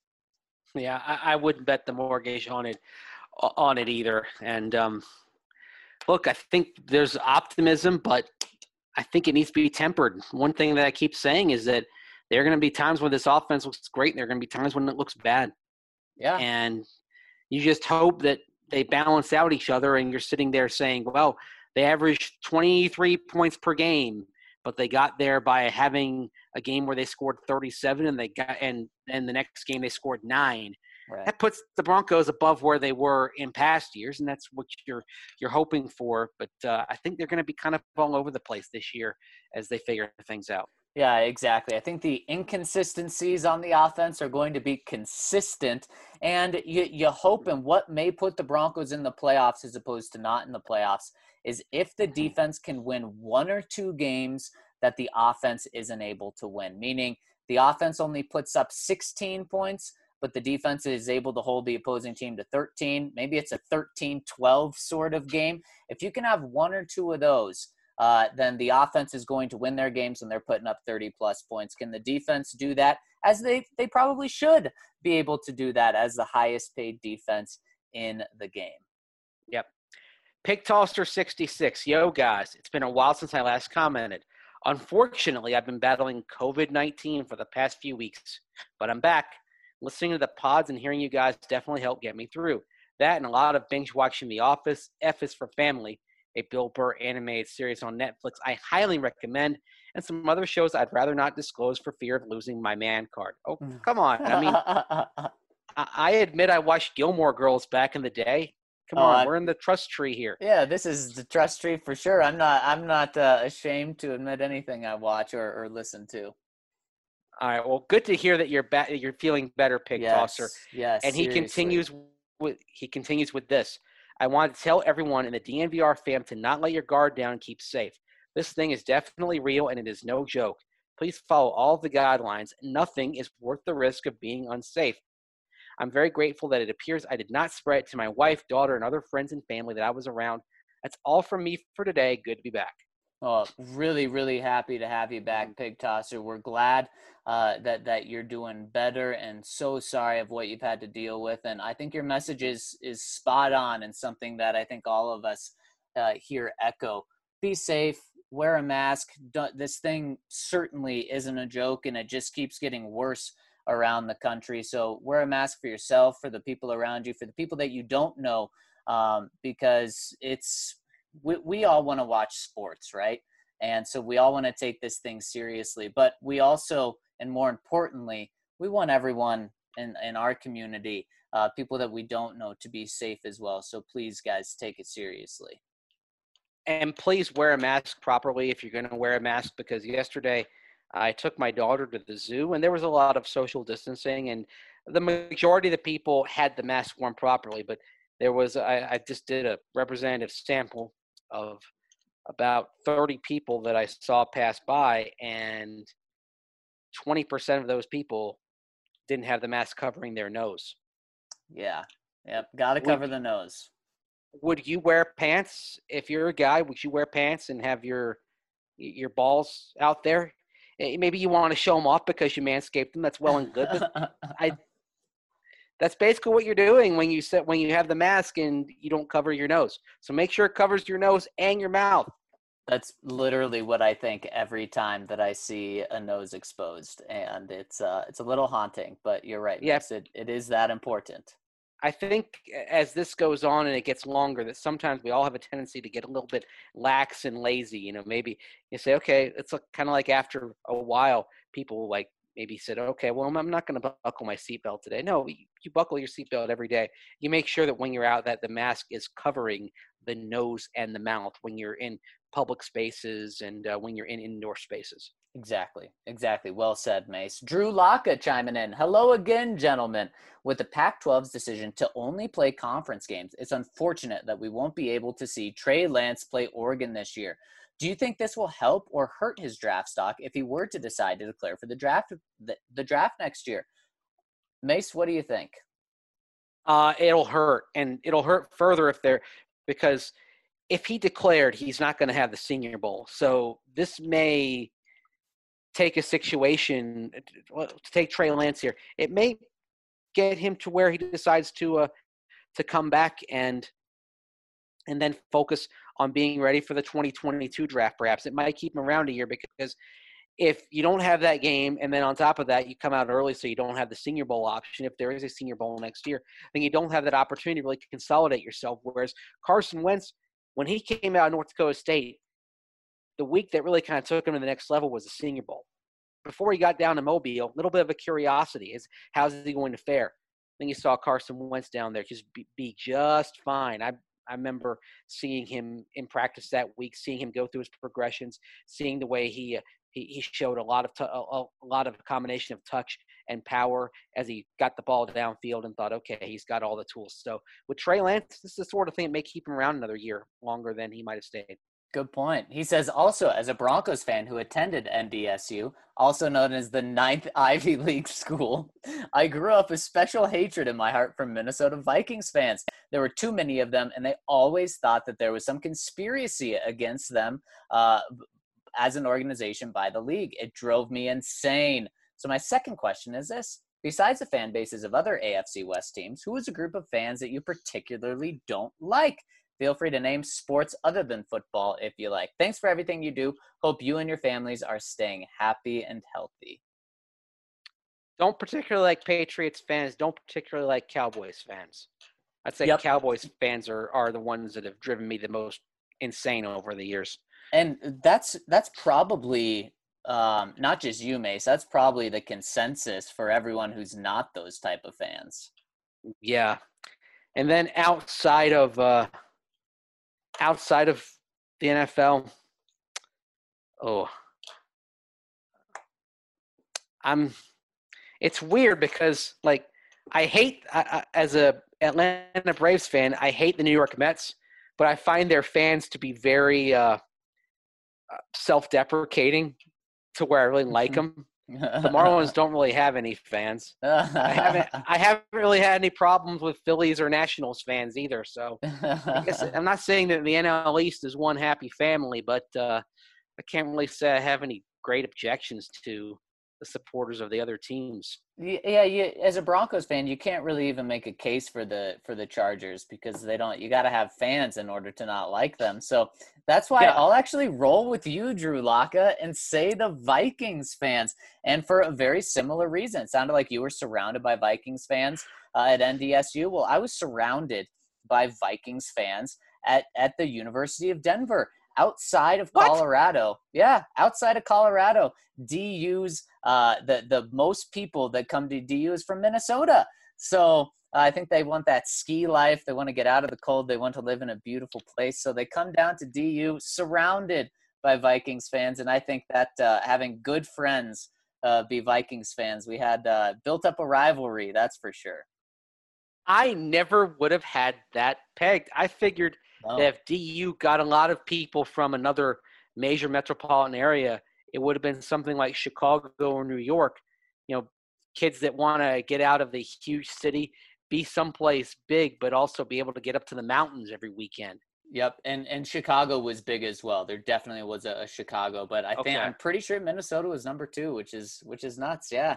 Yeah, I, I wouldn't bet the mortgage on it on it either. And um, look, I think there's optimism, but I think it needs to be tempered. One thing that I keep saying is that there are going to be times when this offense looks great, and there are going to be times when it looks bad. Yeah. And you just hope that they balance out each other, and you're sitting there saying, well, they averaged twenty-three points per game, but they got there by having a game where they scored thirty-seven, and they got and then the next game they scored nine. Right. That puts the Broncos above where they were in past years, and that's what you're you're hoping for. But uh, I think they're going to be kind of all over the place this year as they figure things out. Yeah, exactly. I think the inconsistencies on the offense are going to be consistent, and you, you hope, and what may put the Broncos in the playoffs as opposed to not in the playoffs is if the defense can win one or two games that the offense isn't able to win, meaning the offense only puts up sixteen points, but the defense is able to hold the opposing team to thirteen. Maybe it's a thirteen twelve sort of game. If you can have one or two of those, uh, then the offense is going to win their games and they're putting up thirty plus points. Can the defense do that? As they, they probably should be able to do that as the highest paid defense in the game. Yep. Pig Tosser sixty-six. Yo, guys, it's been a while since I last commented. Unfortunately, I've been battling covid nineteen for the past few weeks, but I'm back. Listening to the pods and hearing you guys definitely helped get me through. That and a lot of binge watching The Office, F is for Family, a Bill Burr animated series on Netflix I highly recommend, and some other shows I'd rather not disclose for fear of losing my man card. Oh, come on. I mean, I, I admit I watched Gilmore Girls back in the day. Come Oh, on, I- we're in the trust tree here. Yeah, this is the trust tree for sure. I'm not I'm not uh, ashamed to admit anything I watch or, or listen to. All right, well, good to hear that you're back. You're feeling better, Pig Yes, Tosser. yes. And he seriously. continues with he continues with this. I want to tell everyone in the D N V R fam to not let your guard down and keep safe. This thing is definitely real and it is no joke. Please follow all of the guidelines. Nothing is worth the risk of being unsafe. I'm very grateful that it appears I did not spread it to my wife, daughter, and other friends and family that I was around. That's all from me for today. Good to be back. Oh, really, really happy to have you back, Pig Tosser. We're glad uh, that that you're doing better, and so sorry of what you've had to deal with. And I think your message is is spot on, and something that I think all of us uh, here echo. Be safe. Wear a mask. Don't, this thing certainly isn't a joke, and it just keeps getting worse around the country. So wear a mask for yourself, for the people around you, for the people that you don't know, um, because it's. We, we all want to watch sports, right? And so we all want to take this thing seriously, but we also, and more importantly, we want everyone in, in our community, uh, people that we don't know, to be safe as well. So please, guys, take it seriously. And please wear a mask properly if you're going to wear a mask, because yesterday I took my daughter to the zoo, and there was a lot of social distancing, and the majority of the people had the mask worn properly. But there was, I, I just did a representative sample of about thirty people that I saw pass by, and twenty percent of those people didn't have the mask covering their nose. Yeah. Yep. Got to cover Would the nose. would you wear pants if you're a guy? Would you wear pants and have your your balls out there? Eh, Maybe you want to show them off because you manscaped them. That's well and good, but I that's basically what you're doing when you set when you have the mask and you don't cover your nose. So make sure it covers your nose and your mouth. That's literally what I think every time that I see a nose exposed, and it's uh, it's a little haunting. But you're right, Yeah, Max. It it is that important. I think as this goes on and it gets longer, that sometimes we all have a tendency to get a little bit lax and lazy. You know, maybe you say, okay, it's kind of like after a while, people like maybe said, okay, well, I'm not going to buckle my seatbelt today. No, you, you buckle your seatbelt every day. You make sure that when you're out, that the mask is covering the nose and the mouth when you're in public spaces and uh, when you're in indoor spaces. Exactly. Exactly. Well said, Mace. Drew Locke chiming in. Hello again, gentlemen. With the Pac twelve's decision to only play conference games, it's unfortunate that we won't be able to see Trey Lance play Oregon this year. Do you think this will help or hurt his draft stock if he were to decide to declare for the draft the, the draft next year? Mace, what do you think? Uh, it'll hurt, and it'll hurt further if they're because if he declared, he's not going to have the Senior Bowl. So this may take a situation well, to take Trey Lance here. It may get him to where he decides to uh, to come back and and then focus on being ready for the twenty twenty-two draft. Perhaps it might keep him around a year because if you don't have that game and then on top of that you come out early so you don't have the Senior Bowl option, if there is a Senior Bowl next year, then you don't have that opportunity to really consolidate yourself. Whereas Carson Wentz, when he came out of North Dakota State, the week that really kind of took him to the next level was the Senior Bowl. Before he got down to Mobile, a little bit of a curiosity is how's he going to fare? Then you saw Carson Wentz down there just be, be just fine. I I remember seeing him in practice that week, seeing him go through his progressions, seeing the way he uh, he, he showed a lot of t- a, a lot of a combination of touch and power as he got the ball downfield and thought, okay, he's got all the tools. So with Trey Lance, this is the sort of thing that may keep him around another year longer than he might have stayed. Good point. He says also, as a Broncos fan who attended N D S U, also known as the ninth Ivy League school, I grew up with special hatred in my heart for Minnesota Vikings fans. There were too many of them, and they always thought that there was some conspiracy against them uh, as an organization by the league. It drove me insane. So my second question is this. Besides the fan bases of other A F C West teams, who is a group of fans that you particularly don't like? Feel free to name sports other than football if you like. Thanks for everything you do. Hope you and your families are staying happy and healthy. Don't particularly like Patriots fans. Don't particularly like Cowboys fans. I'd say Yep. Cowboys fans are, are the ones that have driven me the most insane over the years. And that's that's probably um, not just you, Mace. That's probably the consensus for everyone who's not those type of fans. Yeah. And then outside of uh, outside of the N F L, oh, I'm. It's weird because like I hate I, I, as a Atlanta Braves fan, I hate the New York Mets, but I find their fans to be very uh, self-deprecating to where I really like them. The Marlins don't really have any fans. I haven't I haven't really had any problems with Phillies or Nationals fans either. So I guess I'm not saying that the N L East is one happy family, but uh, I can't really say I have any great objections to the supporters of the other teams. Yeah, you, as a Broncos fan, you can't really even make a case for the for the Chargers because they don't. You got to have fans in order to not like them. So that's why Yeah. I'll actually roll with you, Drew Locke, and say the Vikings fans. And for a very similar reason, it sounded like you were surrounded by Vikings fans uh, at N D S U. Well, I was surrounded by Vikings fans at at the University of Denver. Outside of What? Colorado, yeah, outside of Colorado, D U's uh, the the most people that come to D U is from Minnesota. So uh, I think they want that ski life. They want to get out of the cold. They want to live in a beautiful place. So they come down to D U, surrounded by Vikings fans. And I think that uh, having good friends uh, be Vikings fans, we had uh, built up a rivalry, that's for sure. I never would have had that pegged. I figured No. that if D U got a lot of people from another major metropolitan area, it would have been something like Chicago or New York. You know, kids that want to get out of the huge city, be someplace big, but also be able to get up to the mountains every weekend. Yep, and and Chicago was big as well. There definitely was a, a Chicago, but I think Okay. I'm pretty sure Minnesota was number two, which is which is nuts. Yeah.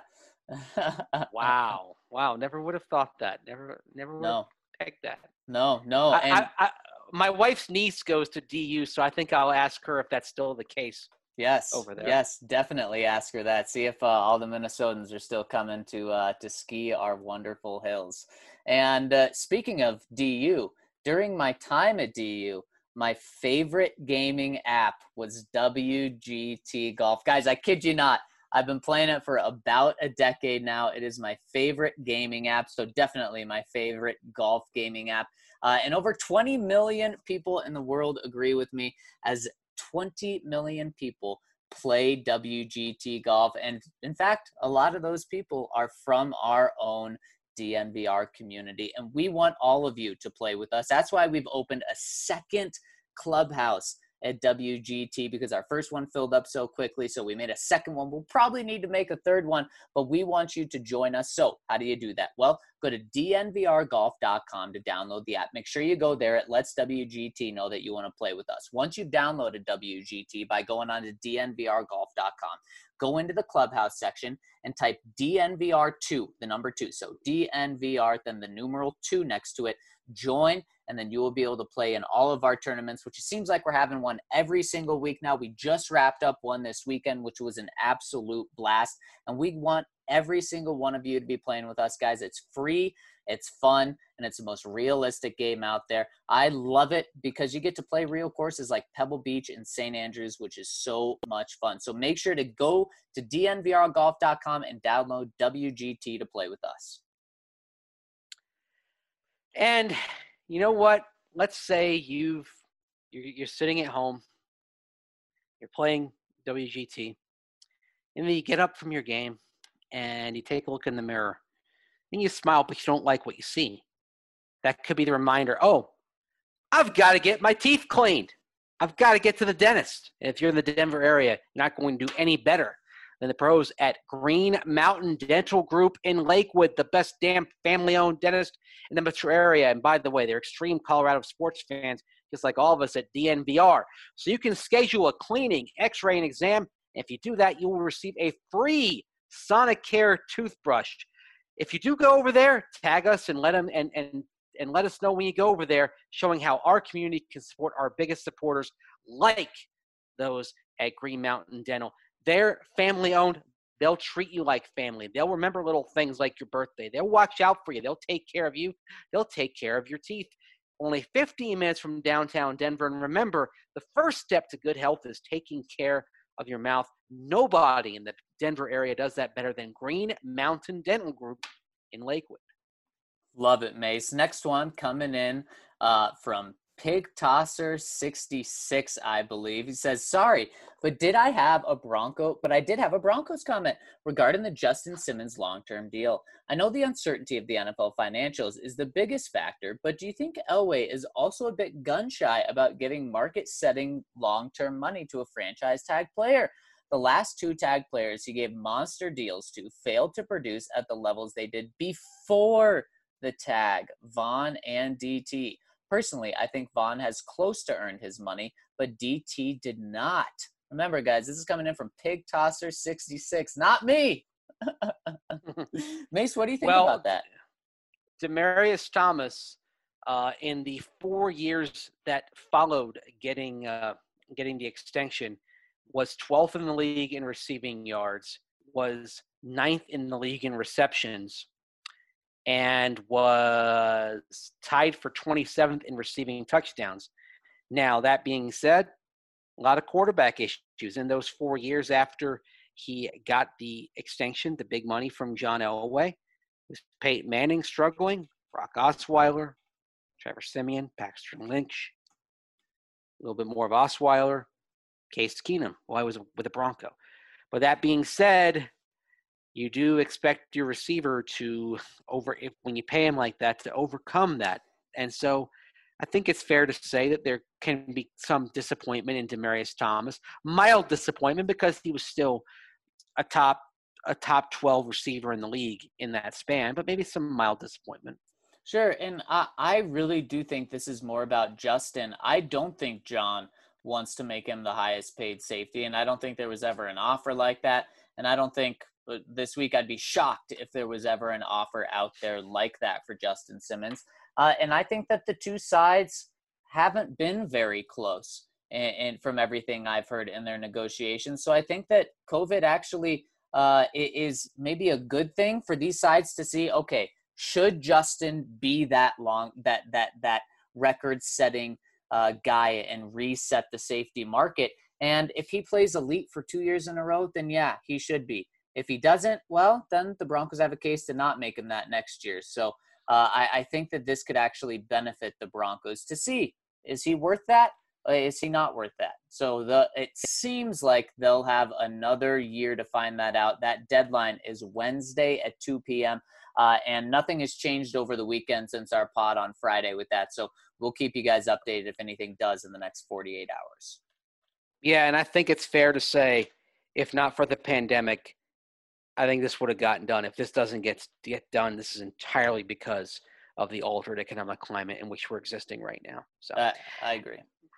Wow. Wow. Never would have thought that. Never, never would No, have pegged that. no, no. I, And I, I, my wife's niece goes to D U, so I think I'll ask her if that's still the case. yes, over there. yes, definitely ask her that. See if uh, all the Minnesotans are still coming to uh, to ski our wonderful hills. And uh, speaking of D U, during my time at D U, my favorite gaming app was W G T Golf. Guys, I kid you not. I've been playing it for about a decade now. It is my favorite gaming app, so definitely my favorite golf gaming app. Uh, and over twenty million people in the world agree with me, as twenty million people play W G T Golf. And in fact, a lot of those people are from our own D N V R community. And we want all of you to play with us. That's why we've opened a second clubhouse at W G T, because our first one filled up so quickly. So we made a second one. We'll probably need to make a third one, but we want you to join us. So how do you do that? Well, go to D N V R golf dot com to download the app. Make sure you go there. It lets W G T know that you want to play with us. Once you've downloaded W G T by going on to D N V R golf dot com, go into the clubhouse section and type D N V R two, the number two. So D N V R, then the numeral two next to it. Join, and then you will be able to play in all of our tournaments, which it seems like we're having one every single week now. We just wrapped up one this weekend, which was an absolute blast. And we want every single one of you to be playing with us, guys. It's free, it's fun, and it's the most realistic game out there. I love it because you get to play real courses like Pebble Beach and Saint Andrews, which is so much fun. So make sure to go to D N V R golf dot com and download W G T to play with us. And you know what? Let's say you've you're, you're sitting at home, you're playing W G T, and then you get up from your game and you take a look in the mirror, and you smile, but you don't like what you see. That could be the reminder, oh, I've got to get my teeth cleaned. I've got to get to the dentist. And if you're in the Denver area, you're not going to do any better than the pros at Green Mountain Dental Group in Lakewood, the best damn family-owned dentist in the metro area. And by the way, they're extreme Colorado sports fans, just like all of us at D N V R. So you can schedule a cleaning, x-ray, and exam. And if you do that, you will receive a free Sonicare toothbrush. If you do go over there, tag us and let them and and and let us know when you go over there, showing how our community can support our biggest supporters, like those at Green Mountain Dental. They're family-owned. They'll treat you like family. They'll remember little things like your birthday. They'll watch out for you. They'll take care of you. They'll take care of your teeth. Only fifteen minutes from downtown Denver. And remember, the first step to good health is taking care of your mouth. Nobody in the Denver area does that better than Green Mountain Dental Group in Lakewood. Love it, Mace. Next one coming in uh, from Pig Tosser sixty-six, I believe. He says, sorry, but did I have a Bronco? But I did have a Broncos comment regarding the Justin Simmons long-term deal. I know the uncertainty of the N F L financials is the biggest factor, but do you think Elway is also a bit gun-shy about giving market-setting long-term money to a franchise tag player? The last two tag players he gave monster deals to failed to produce at the levels they did before the tag, Vaughn and D T. Personally, I think Vaughn has close to earned his money, but D T did not. Remember, guys, this is coming in from Pig Tosser sixty-six, not me. Mace, what do you think well, about that? Demaryius Thomas, uh, in the four years that followed getting uh, getting the extension, was twelfth in the league in receiving yards, was ninth in the league in receptions, and was tied for twenty-seventh in receiving touchdowns. Now, that being said, a lot of quarterback issues in those four years after he got the extension, the big money from John Elway. Was Peyton Manning struggling, Brock Osweiler, Trevor Siemian, Paxton Lynch, a little bit more of Osweiler. Case Keenum while I was with the Bronco. But that being said, you do expect your receiver to over if when you pay him like that to overcome that. And so I think it's fair to say that there can be some disappointment in Demaryius Thomas, mild disappointment because he was still a top a top twelve receiver in the league in that span, but maybe some mild disappointment. Sure, and I, I really do think this is more about Justin. I don't think John wants to make him the highest paid safety, and I don't think there was ever an offer like that. And I don't think this week I'd be shocked if there was ever an offer out there like that for Justin Simmons. Uh, and I think that the two sides haven't been very close, and, and from everything I've heard in their negotiations. So I think that COVID actually uh, is maybe a good thing for these sides to see, okay, should Justin be that long, that that that record-setting uh, guy and reset the safety market? And if he plays elite for two years in a row, then yeah, he should be. If he doesn't, well, then the Broncos have a case to not make him that next year. So uh, I, I think that this could actually benefit the Broncos to see, is he worth that? Or is he not worth that? So the it seems like they'll have another year to find that out. That deadline is Wednesday at two p.m. Uh, and nothing has changed over the weekend since our pod on Friday with that. So we'll keep you guys updated if anything does in the next forty-eight hours. Yeah, and I think it's fair to say, if not for the pandemic, I think this would have gotten done. If this doesn't get get done, this is entirely because of the altered economic climate in which we're existing right now. So uh, I agree.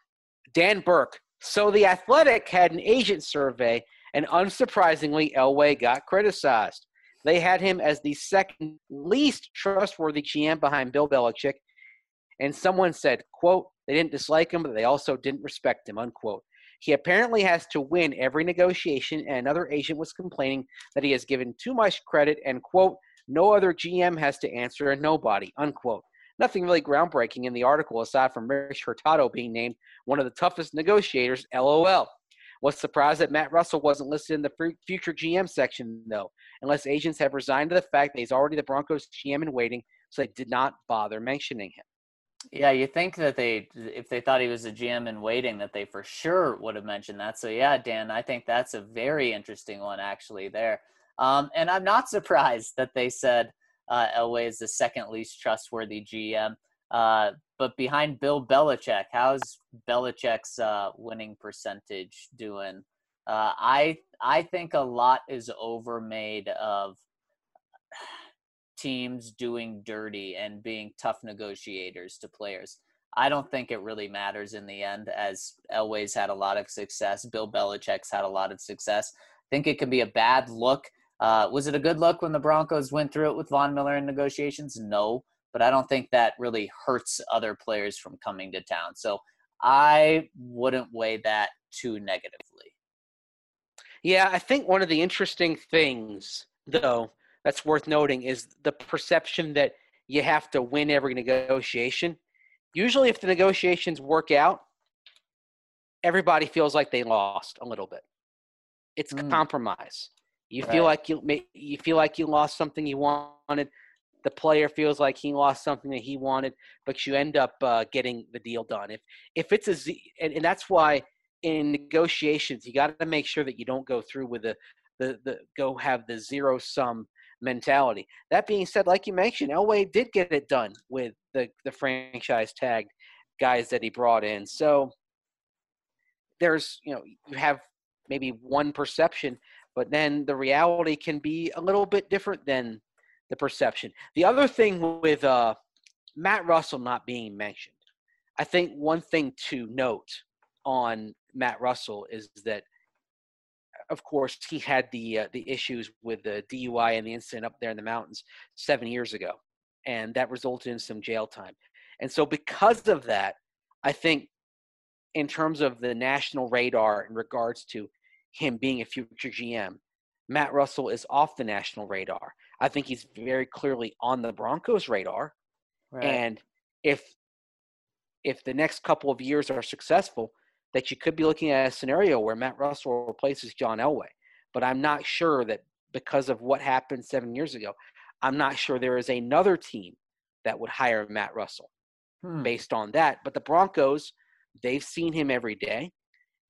Dan Burke. So the Athletic had an agent survey, and unsurprisingly, Elway got criticized. They had him as the second least trustworthy G M behind Bill Belichick, and someone said, quote, they didn't dislike him, but they also didn't respect him, unquote. He apparently has to win every negotiation, and another agent was complaining that he has given too much credit and, quote, no other G M has to answer and nobody, unquote. Nothing really groundbreaking in the article aside from Rich Hurtado being named one of the toughest negotiators, LOL. Was surprised that Matt Russell wasn't listed in the future G M section, though, unless agents have resigned to the fact that he's already the Broncos G M in waiting, so they did not bother mentioning him. Yeah, you think that they, if they thought he was a G M in waiting, that they for sure would have mentioned that. So yeah, Dan, I think that's a very interesting one actually there. Um, and I'm not surprised that they said uh, Elway is the second least trustworthy G M. Uh, but behind Bill Belichick, how's Belichick's uh, winning percentage doing? Uh, I I think a lot is overmade of teams doing dirty and being tough negotiators to players. I don't think it really matters in the end, as Elway's had a lot of success. Bill Belichick's had a lot of success. I think it could be a bad look. Uh, was it a good look when the Broncos went through it with Von Miller in negotiations? No, but I don't think that really hurts other players from coming to town. So I wouldn't weigh that too negatively. Yeah, I think one of the interesting things, though, that's worth noting is the perception that you have to win every negotiation. Usually if the negotiations work out, everybody feels like they lost a little bit. It's mm. compromise. You right. feel like you you feel like you lost something you wanted. The player feels like he lost something that he wanted, but you end up uh, getting the deal done. If if it's a Z, and, and that's why in negotiations you got to make sure that you don't go through with the the the go have the zero sum mentality. That being said, like you mentioned, Elway did get it done with the the franchise tagged guys that he brought in. So there's you know you have maybe one perception, but then the reality can be a little bit different than the perception. The other thing with uh, Matt Russell not being mentioned, I think one thing to note on Matt Russell is that, of course, he had the uh, the issues with the D U I and the incident up there in the mountains seven years ago, and that resulted in some jail time. And so because of that, I think in terms of the national radar in regards to him being a future G M, Matt Russell is off the national radar. I think he's very clearly on the Broncos' radar. Right. And if if the next couple of years are successful, that you could be looking at a scenario where Matt Russell replaces John Elway. But I'm not sure that because of what happened seven years ago, I'm not sure there is another team that would hire Matt Russell hmm. based on that. But the Broncos, they've seen him every day.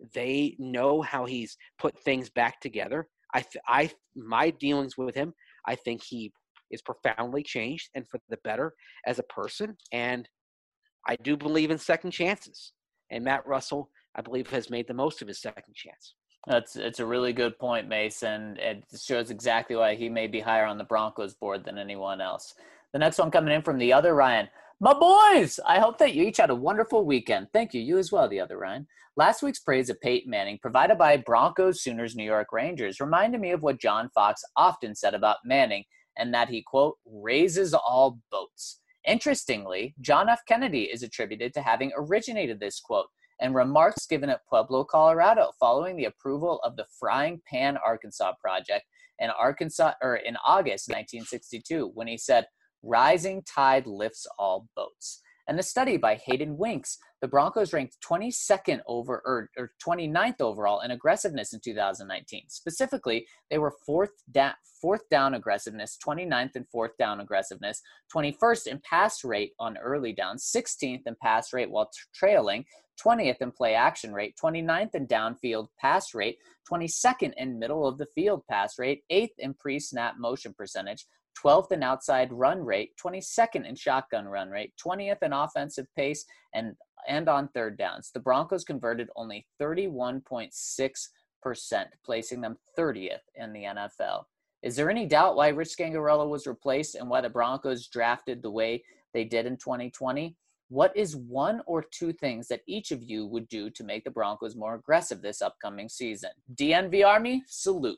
They know how he's put things back together. I, th- I, my dealings with him, I think he is profoundly changed and for the better as a person. And I do believe in second chances. And Matt Russell, I believe, has made the most of his second chance. That's it's a really good point, Mason. It shows exactly why he may be higher on the Broncos board than anyone else. The next one coming in from the other Ryan. My boys, I hope that you each had a wonderful weekend. Thank you. You as well, the other Ryan. Last week's praise of Peyton Manning, provided by Broncos, Sooners, New York Rangers, reminded me of what John Fox often said about Manning, and that he, quote, raises all boats. Interestingly, John F. Kennedy is attributed to having originated this quote, and remarks given at Pueblo, Colorado, following the approval of the Frying Pan Arkansas project in Arkansas or in August nineteen sixty-two, when he said, "Rising tide lifts all boats." And the study by Hayden Winks, the Broncos ranked twenty-second over or, or twenty-ninth overall in aggressiveness in two thousand nineteen. Specifically, they were fourth down, fourth down aggressiveness, twenty-ninth in fourth down aggressiveness, twenty-first in pass rate on early down, sixteenth in pass rate while t- trailing, twentieth in play action rate, twenty-ninth in downfield pass rate, twenty-second in middle of the field pass rate, eighth in pre-snap motion percentage, twelfth in outside run rate, twenty-second in shotgun run rate, twentieth in offensive pace, and and on third downs. The Broncos converted only thirty-one point six percent, placing them thirtieth in the N F L. Is there any doubt why Rich Scangarello was replaced and why the Broncos drafted the way they did in twenty twenty? What is one or two things that each of you would do to make the Broncos more aggressive this upcoming season? D N V Army, salute.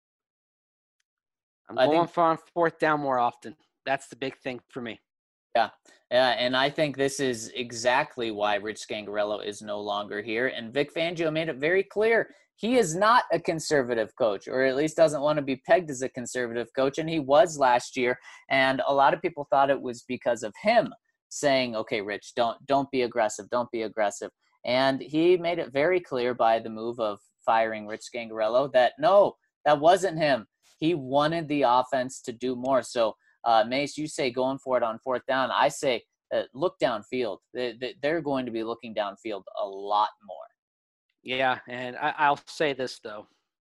I'm going think, for on fourth down more often. That's the big thing for me. Yeah, yeah, and I think this is exactly why Rich Scangarello is no longer here. And Vic Fangio made it very clear he is not a conservative coach, or at least doesn't want to be pegged as a conservative coach, and he was last year. And a lot of people thought it was because of him saying, "Okay, Rich, don't don't be aggressive, don't be aggressive." And he made it very clear by the move of firing Rich Scangarello that no, that wasn't him. He wanted the offense to do more. So, uh, Mace, you say going for it on fourth down. I say uh, look downfield. They, they, they're going to be looking downfield a lot more. Yeah, and I, I'll say this, though.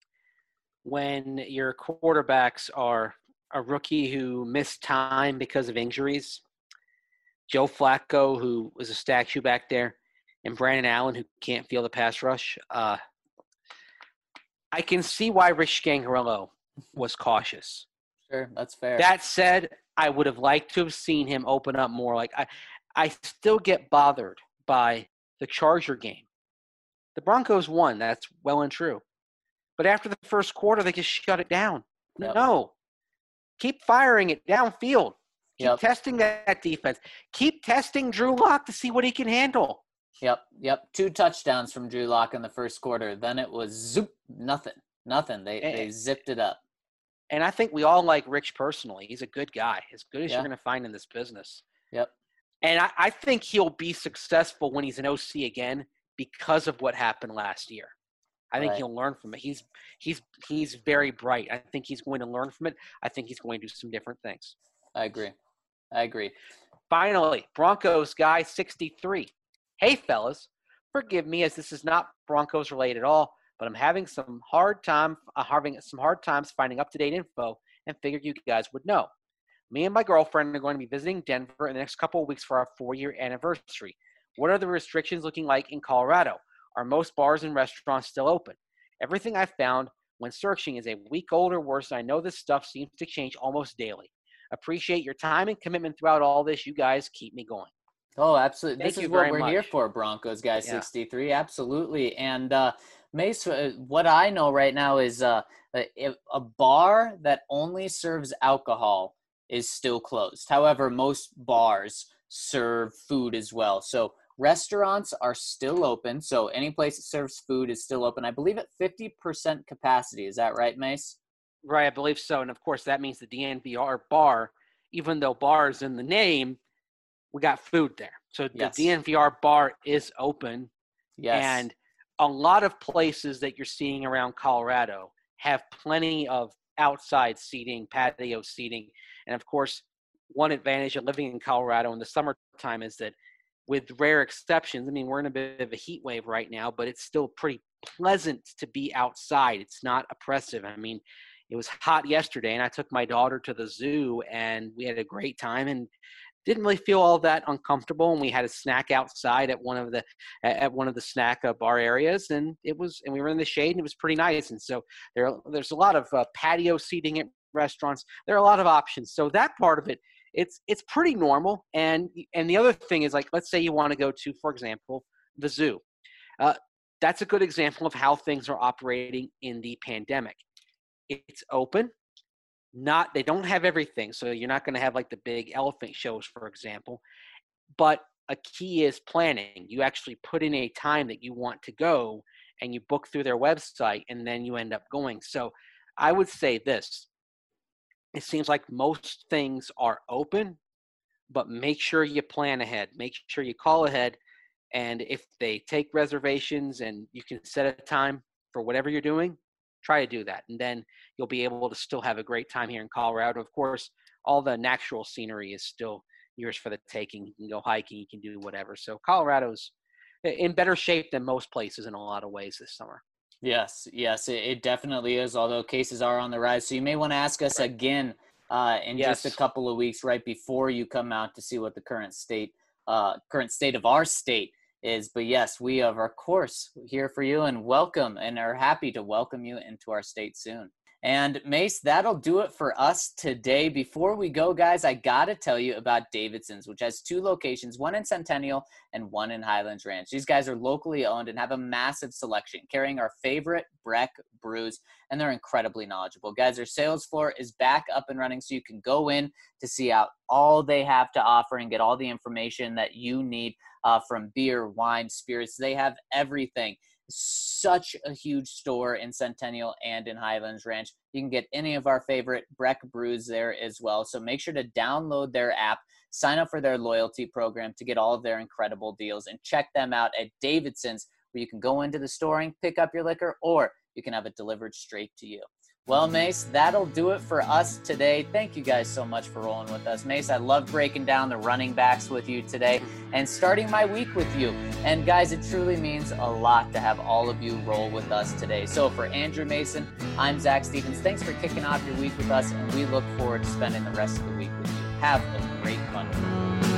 When your quarterbacks are a rookie who missed time because of injuries, Joe Flacco, who was a statue back there, and Brandon Allen, who can't feel the pass rush, uh, I can see why Rich Scangarello was cautious. Sure, that's fair. That said, I would have liked to have seen him open up more. Like I, I still get bothered by the Charger game. The Broncos won. That's well and true. But after the first quarter, they just shut it down. Yep. No. Keep firing it downfield. Keep yep. testing that defense. Keep testing Drew Lock to see what he can handle. Yep, yep. Two touchdowns from Drew Lock in the first quarter. Then it was zoop, nothing, nothing. They and, they zipped it up. And I think we all like Rich personally. He's a good guy, as good as yeah. you're going to find in this business. Yep. And I, I think he'll be successful when he's an O C again because of what happened last year. I think right. he'll learn from it. He's he's he's very bright. I think he's going to learn from it. I think he's going to do some different things. I agree. I agree. Finally, Broncos guy sixty-three. Hey, fellas, forgive me as this is not Broncos related at all, but I'm having some hard time uh, having some hard times finding up-to-date info and figured you guys would know. Me and my girlfriend are going to be visiting Denver in the next couple of weeks for our four-year anniversary. What are the restrictions looking like in Colorado? Are most bars and restaurants still open? Everything I found when searching is a week old or worse, and I know this stuff seems to change almost daily. Appreciate your time and commitment throughout all this. You guys keep me going. Oh, absolutely. Thank this you is what we're much. here for, Broncos guy Yeah. sixty-three. Absolutely. And uh, Mace, uh, what I know right now is uh, a, a bar that only serves alcohol is still closed. However, most bars serve food as well. So restaurants are still open. So any place that serves food is still open. I believe at fifty percent capacity. Is that right, Mace? Right, I believe so. And, of course, that means the D N V R bar, even though bar is in the name, we got food there. So yes. the D N V R bar is open. Yes. And a lot of places that you're seeing around Colorado have plenty of outside seating, patio seating. And, of course, one advantage of living in Colorado in the summertime is that with rare exceptions. I mean, we're in a bit of a heat wave right now, but it's still pretty pleasant to be outside. It's not oppressive. I mean, it was hot yesterday, and I took my daughter to the zoo, and we had a great time and didn't really feel all that uncomfortable. And we had a snack outside at one of the at one of the snack uh, bar areas, and it was and we were in the shade, and it was pretty nice. And so there there's a lot of uh, patio seating at restaurants. There are a lot of options. So that part of it, it's it's pretty normal. And and the other thing is, like, let's say you want to go to, for example, the zoo. Uh, that's a good example of how things are operating in the pandemic. It's open. Not, they don't have everything. So you're not going to have like the big elephant shows, for example. But a key is planning. You actually put in a time that you want to go, and you book through their website, and then you end up going. So I would say this. It seems like most things are open, but make sure you plan ahead. Make sure you call ahead. And if they take reservations and you can set a time for whatever you're doing, try to do that. And then you'll be able to still have a great time here in Colorado. Of course, all the natural scenery is still yours for the taking. You can go hiking, you can do whatever. So Colorado's in better shape than most places in a lot of ways this summer. Yes, yes, it, it definitely is, although cases are on the rise. So you may want to ask us Right. again uh, in Yes. just a couple of weeks right before you come out to see what the current state, uh, current state of our state is. But yes, we are, of course, here for you and welcome and are happy to welcome you into our state soon. And Mace, that'll do it for us today. Before we go, guys, I got to tell you about Davidson's, which has two locations, one in Centennial and one in Highlands Ranch. These guys are locally owned and have a massive selection, carrying our favorite Breck brews, and they're incredibly knowledgeable. Guys, their sales floor is back up and running, so you can go in to see out all they have to offer and get all the information that you need uh, from beer, wine, spirits. They have everything. Such a huge store in Centennial and in Highlands Ranch. You can get any of our favorite Breck brews there as well. So make sure to download their app, sign up for their loyalty program to get all of their incredible deals, and check them out at Davidson's, where you can go into the store and pick up your liquor, or you can have it delivered straight to you. Well, Mace, that'll do it for us today. Thank you guys so much for rolling with us. Mace, I love breaking down the running backs with you today and starting my week with you. And guys, it truly means a lot to have all of you roll with us today. So for Andrew Mason, I'm Zach Stevens. Thanks for kicking off your week with us, and we look forward to spending the rest of the week with you. Have a great Monday.